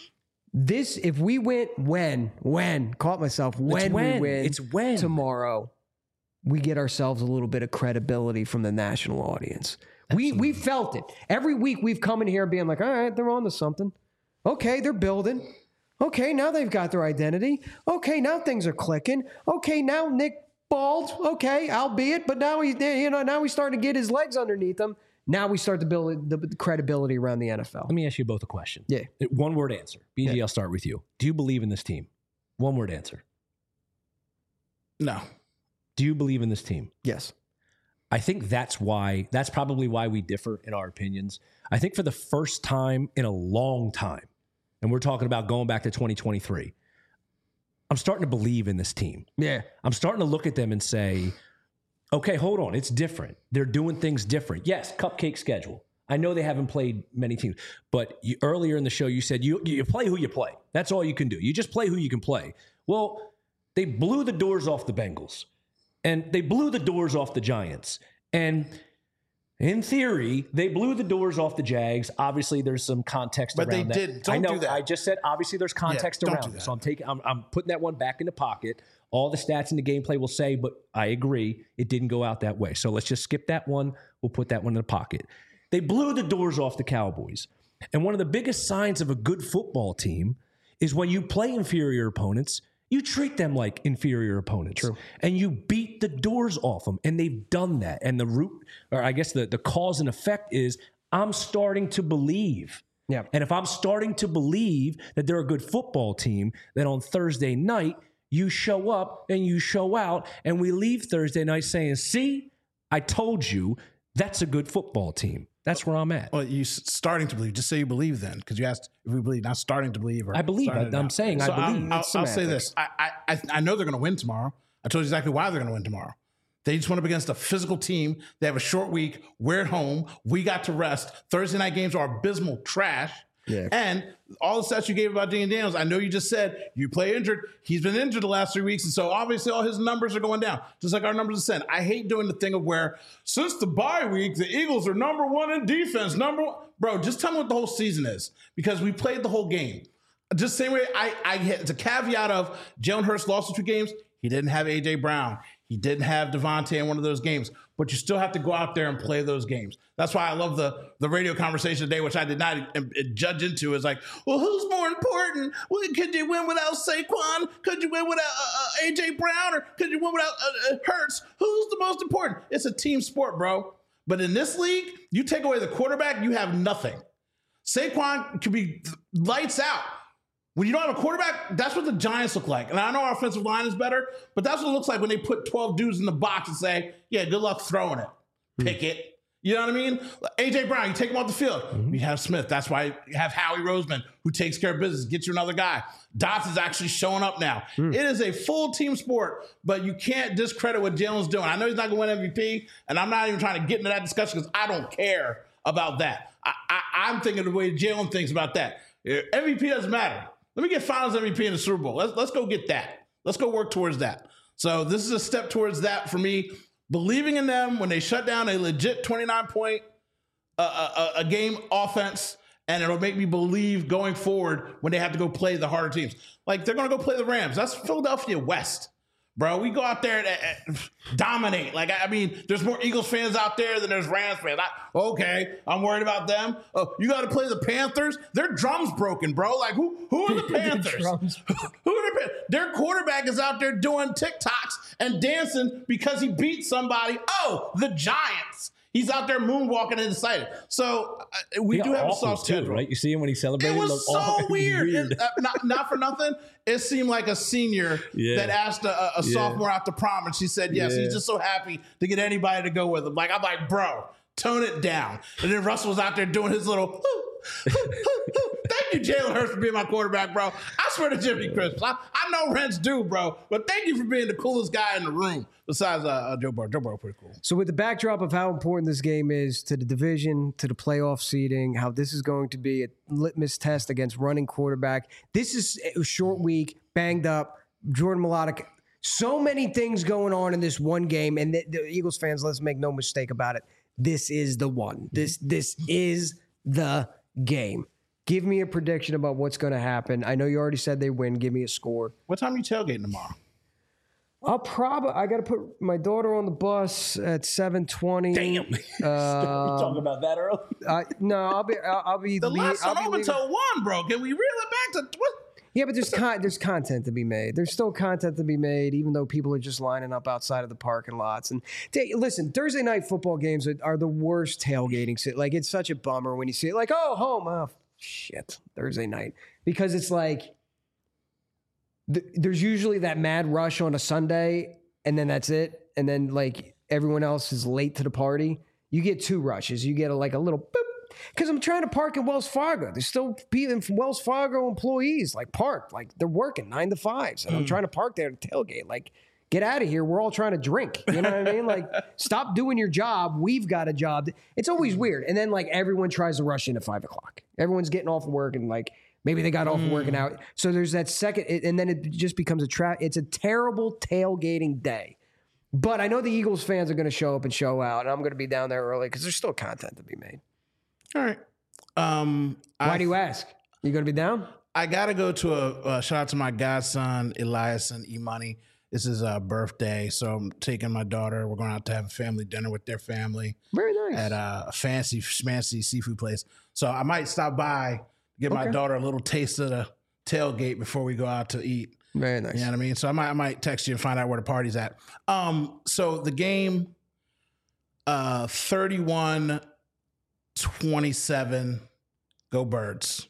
This, if we win, when, when, caught myself, when, when. we win it's when. tomorrow, we get ourselves a little bit of credibility from the national audience. We we felt it. Every week we've come in here being like, all right, they're on to something. Okay, they're building. Okay, now they've got their identity. Okay, now things are clicking. Okay, now Nick bald. Okay, albeit, but now he's you know now he's starting to get his legs underneath him. Now we start to build the credibility around the N F L. Let me ask you both a question. Yeah. One word answer. B G, yeah. I'll start with you. Do you believe in this team? One word answer. No. Do you believe in this team? Yes. I think that's why, that's probably why we differ in our opinions. I think for the first time in a long time, and we're talking about going back to twenty twenty-three, I'm starting to believe in this team. Yeah. I'm starting to look at them and say, okay, hold on, it's different. They're doing things different. Yes, cupcake schedule. I know they haven't played many teams, but you, earlier in the show you said you you play who you play. That's all you can do. You just play who you can play. Well, they blew the doors off the Bengals. And they blew the doors off the Giants. And in theory, they blew the doors off the Jags. Obviously, there's some context but around that. But they did. Don't I know. do that. I just said obviously there's context yeah, around it. So I'm taking. I'm, I'm putting that one back in the pocket. All the stats in the gameplay will say, but I agree, it didn't go out that way. So let's just skip that one. We'll put that one in the pocket. They blew the doors off the Cowboys. And one of the biggest signs of a good football team is when you play inferior opponents, you treat them like inferior opponents. True. And you beat the doors off them. And they've done that. And the root, or I guess the, the cause and effect is I'm starting to believe. Yeah. And if I'm starting to believe that they're a good football team, then on Thursday night, you show up and you show out. And we leave Thursday night saying, see, I told you that's a good football team. That's where I'm at. Well, you s- starting to believe. Just say you believe then, because you asked if we believe, not starting to believe. Or I believe. starting I, to I'm doubt. saying So I believe. I'll, It's I'll, I'll say semantics. this. I, I I I know they're going to win tomorrow. I told you exactly why they're going to win tomorrow. They just went up against a physical team. They have a short week. We're at home. We got to rest. Thursday night games are abysmal trash. Yeah. And all the stats you gave about Daniel Daniels, I know you just said you play injured. He's been injured the last three weeks. And so obviously all his numbers are going down, just like our numbers are saying. I hate doing the thing of where since the bye week, the Eagles are number one in defense. Number one. Bro, just tell me what the whole season is, because we played the whole game. Just the same way I, I it's a caveat of Jalen Hurts lost the two games. He didn't have A J Brown. He didn't have Devontae in one of those games, but you still have to go out there and play those games. That's why I love the, the radio conversation today, which I did not uh, judge into. Is like, well, who's more important? Well, could you win without Saquon? Could you win without uh, uh, A J Brown? Or could you win without uh, uh, Hurts? Who's the most important? It's a team sport, bro. But in this league, you take away the quarterback, you have nothing. Saquon could be lights out. When you don't have a quarterback, that's what the Giants look like. And I know our offensive line is better, but that's what it looks like when they put twelve dudes in the box and say, yeah, good luck throwing it. Pick mm. it. You know what I mean? A J Brown, you take him off the field. Mm-hmm. You have Smith. That's why you have Howie Roseman, who takes care of business, get you another guy. Dots is actually showing up now. Mm. It is a full team sport, but you can't discredit what Jalen's doing. I know he's not going to win M V P, and I'm not even trying to get into that discussion because I don't care about that. I, I, I'm thinking the way Jalen thinks about that. M V P doesn't matter. Let me get Finals M V P in the Super Bowl. Let's let's go get that. Let's go work towards that. So this is a step towards that for me. Believing in them when they shut down a legit twenty-nine point uh, a, a game offense, and it'll make me believe going forward when they have to go play the harder teams. Like they're going to go play the Rams. That's Philadelphia West. Bro, we go out there and, and dominate. Like, I mean, there's more Eagles fans out there than there's Rams fans. I, okay, I'm worried about them. Oh, you got to play the Panthers? Their drum's broken, bro. Like, who who are the Panthers? who are the Panthers? Their quarterback is out there doing TikToks and dancing because he beat somebody. Oh, the Giants. He's out there moonwalking and excited. So uh, we do have a soft schedule, right? You see him when he celebrated. It was so awful. weird. weird. It, uh, not, not for nothing. It seemed like a senior yeah. that asked a, a yeah. sophomore out to prom, and she said yes. Yeah. He's just so happy to get anybody to go with him. Like I'm like, bro, tone it down. And then Russell was out there doing his little. Thank you, Jalen Hurts, for being my quarterback, bro. I swear to Jimmy Crisp. I, I know rents do, bro, but thank you for being the coolest guy in the room. Besides uh, uh, Joe Burrow. Joe Burrow pretty cool. So with the backdrop of how important this game is to the division, to the playoff seeding, how this is going to be a litmus test against running quarterback. This is a short week, banged up, Jordan Mailata. So many things going on in this one game, and the, the Eagles fans, let's make no mistake about it. This is the one. This this is the game. Give me a prediction about what's going to happen. I know you already said they win. Give me a score. What time are you tailgating tomorrow? I'll probably. I got to put my daughter on the bus at seven twenty. Damn, uh, we're talking about that early. Uh, no, I'll be. I'll, I'll be. The last I'll one open until one, bro. Can we reel it back to what? Yeah, but there's con- there's content to be made. There's still content to be made, even though people are just lining up outside of the parking lots. And t- listen, Thursday night football games are, are the worst tailgating. Like it's such a bummer when you see it. Like, oh, home, oh shit, Thursday night, because it's like. There's usually that mad rush on a Sunday, and then that's it. And then, like, everyone else is late to the party. You get two rushes. You get, a, like, a little boop. Because I'm trying to park in Wells Fargo. There's still people from Wells Fargo employees, like, parked. Like, they're working nine to fives. And mm. I'm trying to park there to tailgate. Like, get out of here. We're all trying to drink. You know what I mean? Like, stop doing your job. We've got a job. It's always weird. And then, like, everyone tries to rush in at five o'clock. Everyone's getting off of work and, like, maybe they got off mm. working out. So there's that second, and then it just becomes a trap. It's a terrible tailgating day. But I know the Eagles fans are going to show up and show out, and I'm going to be down there early because there's still content to be made. All right. Um, Why I, do you ask? You going to be down? I got to go to a, a shout out to my godson, Elias and Imani. This is a birthday, so I'm taking my daughter. We're going out to have a family dinner with their family. Very nice. At a fancy, schmancy seafood place. So I might stop by. Give okay. my daughter a little taste of the tailgate before we go out to eat. Very nice. You know what I mean? So I might I might text you and find out where the party's at. Um, so the game, uh, thirty-one twenty-seven, go Birds.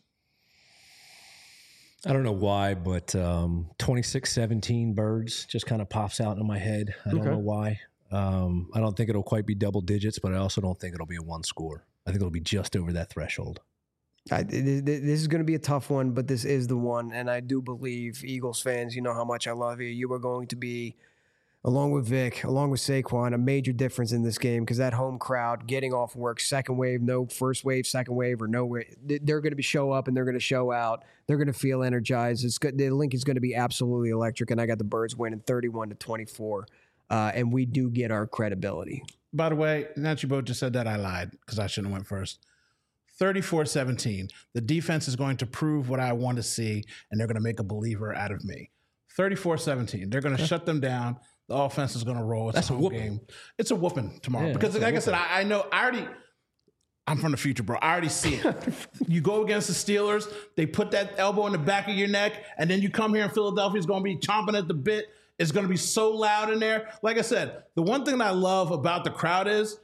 I don't know why, but um, twenty-six seventeen Birds just kind of pops out in my head. I don't okay. know why. Um, I don't think it'll quite be double digits, but I also don't think it'll be a one score. I think it'll be just over that threshold. I, this is going to be a tough one, but this is the one. And I do believe, Eagles fans, you know how much I love you. You are going to be, along with Vic, along with Saquon, a major difference in this game because that home crowd getting off work, second wave, no first wave, second wave, or no wave, they're going to be show up and they're going to show out. They're going to feel energized. It's good. The link is going to be absolutely electric, and I got the Birds winning thirty-one to twenty-four, uh, and we do get our credibility. By the way, now that you both just said that, I lied because I shouldn't have went first. thirty-four seventeen. The defense is going to prove what I want to see, and they're going to make a believer out of me. thirty-four seventeen. They're going to shut them down. The offense is going to roll. It's That's a a home whooping. game. It's a whooping tomorrow. Yeah, because, it's a like I whooping. said, I, I know, I already, I'm from the future, bro. I already see it. You go against the Steelers, they put that elbow in the back of your neck, and then you come here in Philadelphia, it's going to be chomping at the bit. It's going to be so loud in there. Like I said, the one thing I love about the crowd is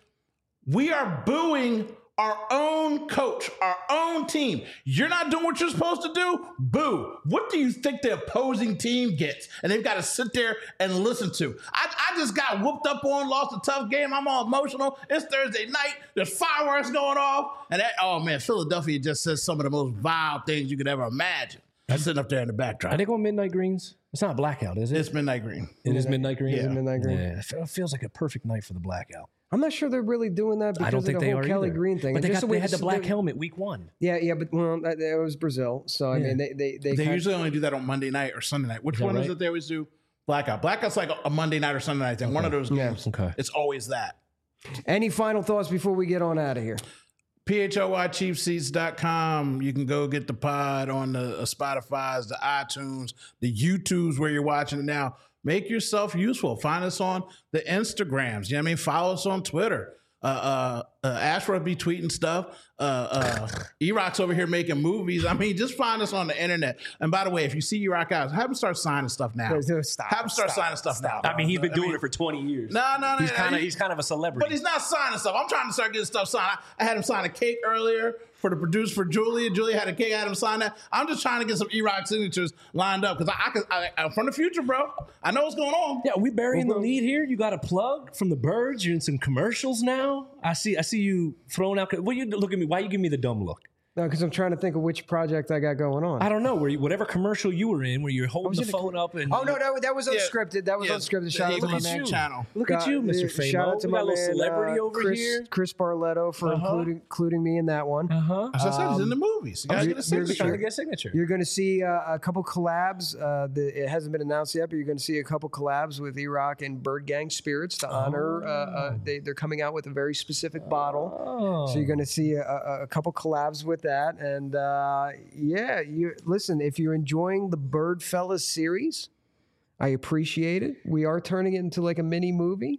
we are booing our own coach, our own team. You're not doing what you're supposed to do? Boo. What do you think the opposing team gets? And they've got to sit there and listen to. I, I just got whooped up on, lost a tough game. I'm all emotional. It's Thursday night. There's fireworks going off. And that, oh man, Philadelphia just says some of the most vile things you could ever imagine. I'm sitting up there in the backdrop. Are they going midnight greens? It's not blackout, is it? It's midnight green. It is midnight green? Yeah. Midnight green. Yeah, it fe- feels like a perfect night for the blackout. I'm not sure they're really doing that because I don't think of the they whole are Kelly either. Green thing. But And they, just got, the way they had the this- black helmet week one. Yeah, yeah, but well, that, that was Brazil. So I Yeah. mean, they they they, They kind- usually only do that on Monday night or Sunday night. Which that one is right? it they always do? Blackout. Blackout's like a Monday night or Sunday night thing. One of those games. Okay. It's always that. Any final thoughts before we get on out of here? P H L Y cheap seats dot com. You can go get the pod on the uh, Spotify's, the iTunes, the YouTubes where you're watching it now. Make yourself useful. Find us on the Instagrams. You know what I mean? Follow us on Twitter. Uh, uh, uh, Ashworth be tweeting stuff. Uh, uh, E-Rock's over here making movies. I mean, just find us on the internet. And by the way, if you see E-Rock out, have him start signing stuff now. Stop, Have him start stop, signing stuff now. I mean, he's been I doing mean, it for twenty years. No, no, no. He's no, kind of he- he's kind of a celebrity. But he's not signing stuff. I'm trying to start getting stuff signed. I, I had him sign a cake earlier for the producer for Julia. Julia had a cake. I had him sign that. I'm just trying to get some E-Rock signatures lined up because I, I, could- I, I'm from the future, bro. I know what's going on. Yeah, we burying the lead here. You got a plug from the Birds. You're in some commercials now. I see. I see you throwing out. What you look at me? Why you give me the dumb look? No, because I'm trying to think of which project I got going on. I don't know. Where you, whatever commercial you were in, where you're holding the in a phone up and Oh no, that, that was Yeah. unscripted. That was Yeah, unscripted. the Shout out to my Eagles man. channel. Look at you, Mister Famo. Shout out to we my got a little man, celebrity uh, over Chris, here. Chris Barletto for Uh-huh. including including me in that one. Uh huh. As I said, he's in the movies. You gotta you're- get a you're- Just trying to signature. get a signature. You're going to see uh, a couple collabs. Uh, the, it hasn't been announced yet, but you're going to see a couple collabs with E-Rock and Bird Gang Spirits to honor. Uh, uh, they, they're coming out with a very specific bottle. Oh. So you're going to see a, a, a couple collabs with that. And uh, yeah, you listen, if you're enjoying the Bird Fellas series, I appreciate it. We are turning it into like a mini movie.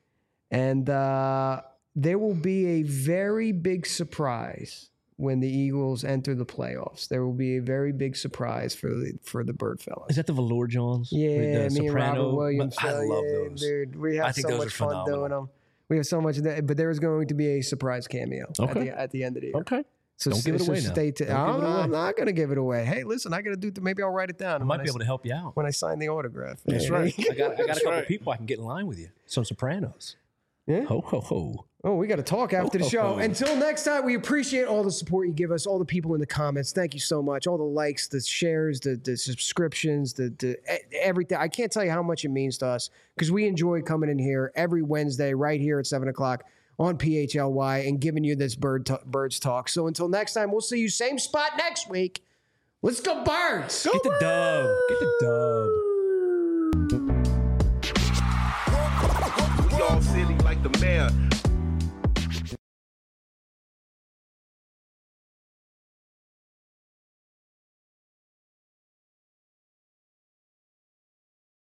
And uh, there will be a very big surprise when the Eagles enter the playoffs. There will be a very big surprise for the for the Bird Fellas. Is that the Velour Johns? Yeah, the me and Robert Williams. I uh, love yeah, those. dude. We have I think so those much are fun phenomenal. doing them. We have so much, of that, but there is going to be a surprise cameo at, Okay. the, at the end of the year. Okay. So Don't give it so away now. Stay tuned. Don't give I'm, it away. I'm not going to give it away. Hey, listen, I got to do. Th- maybe I'll write it down. I might be able to help you out. when I sign the autograph. That's Hey, right. I got, I got a That's couple right. people I can get in line with you. Some Sopranos. Yeah? Ho, ho, ho. Oh, we got to talk after the Oh, show. oh. Until next time, we appreciate all the support you give us, all the people in the comments. Thank you so much. All the likes, the shares, the, the subscriptions, the, the e- everything. I can't tell you how much it means to us because we enjoy coming in here every Wednesday right here at seven o'clock on P H L Y and giving you this bird t- Birds talk. So until next time, we'll see you same spot next week. Let's go Birds. Get the dub. Get the dub. We all silly like the mayor.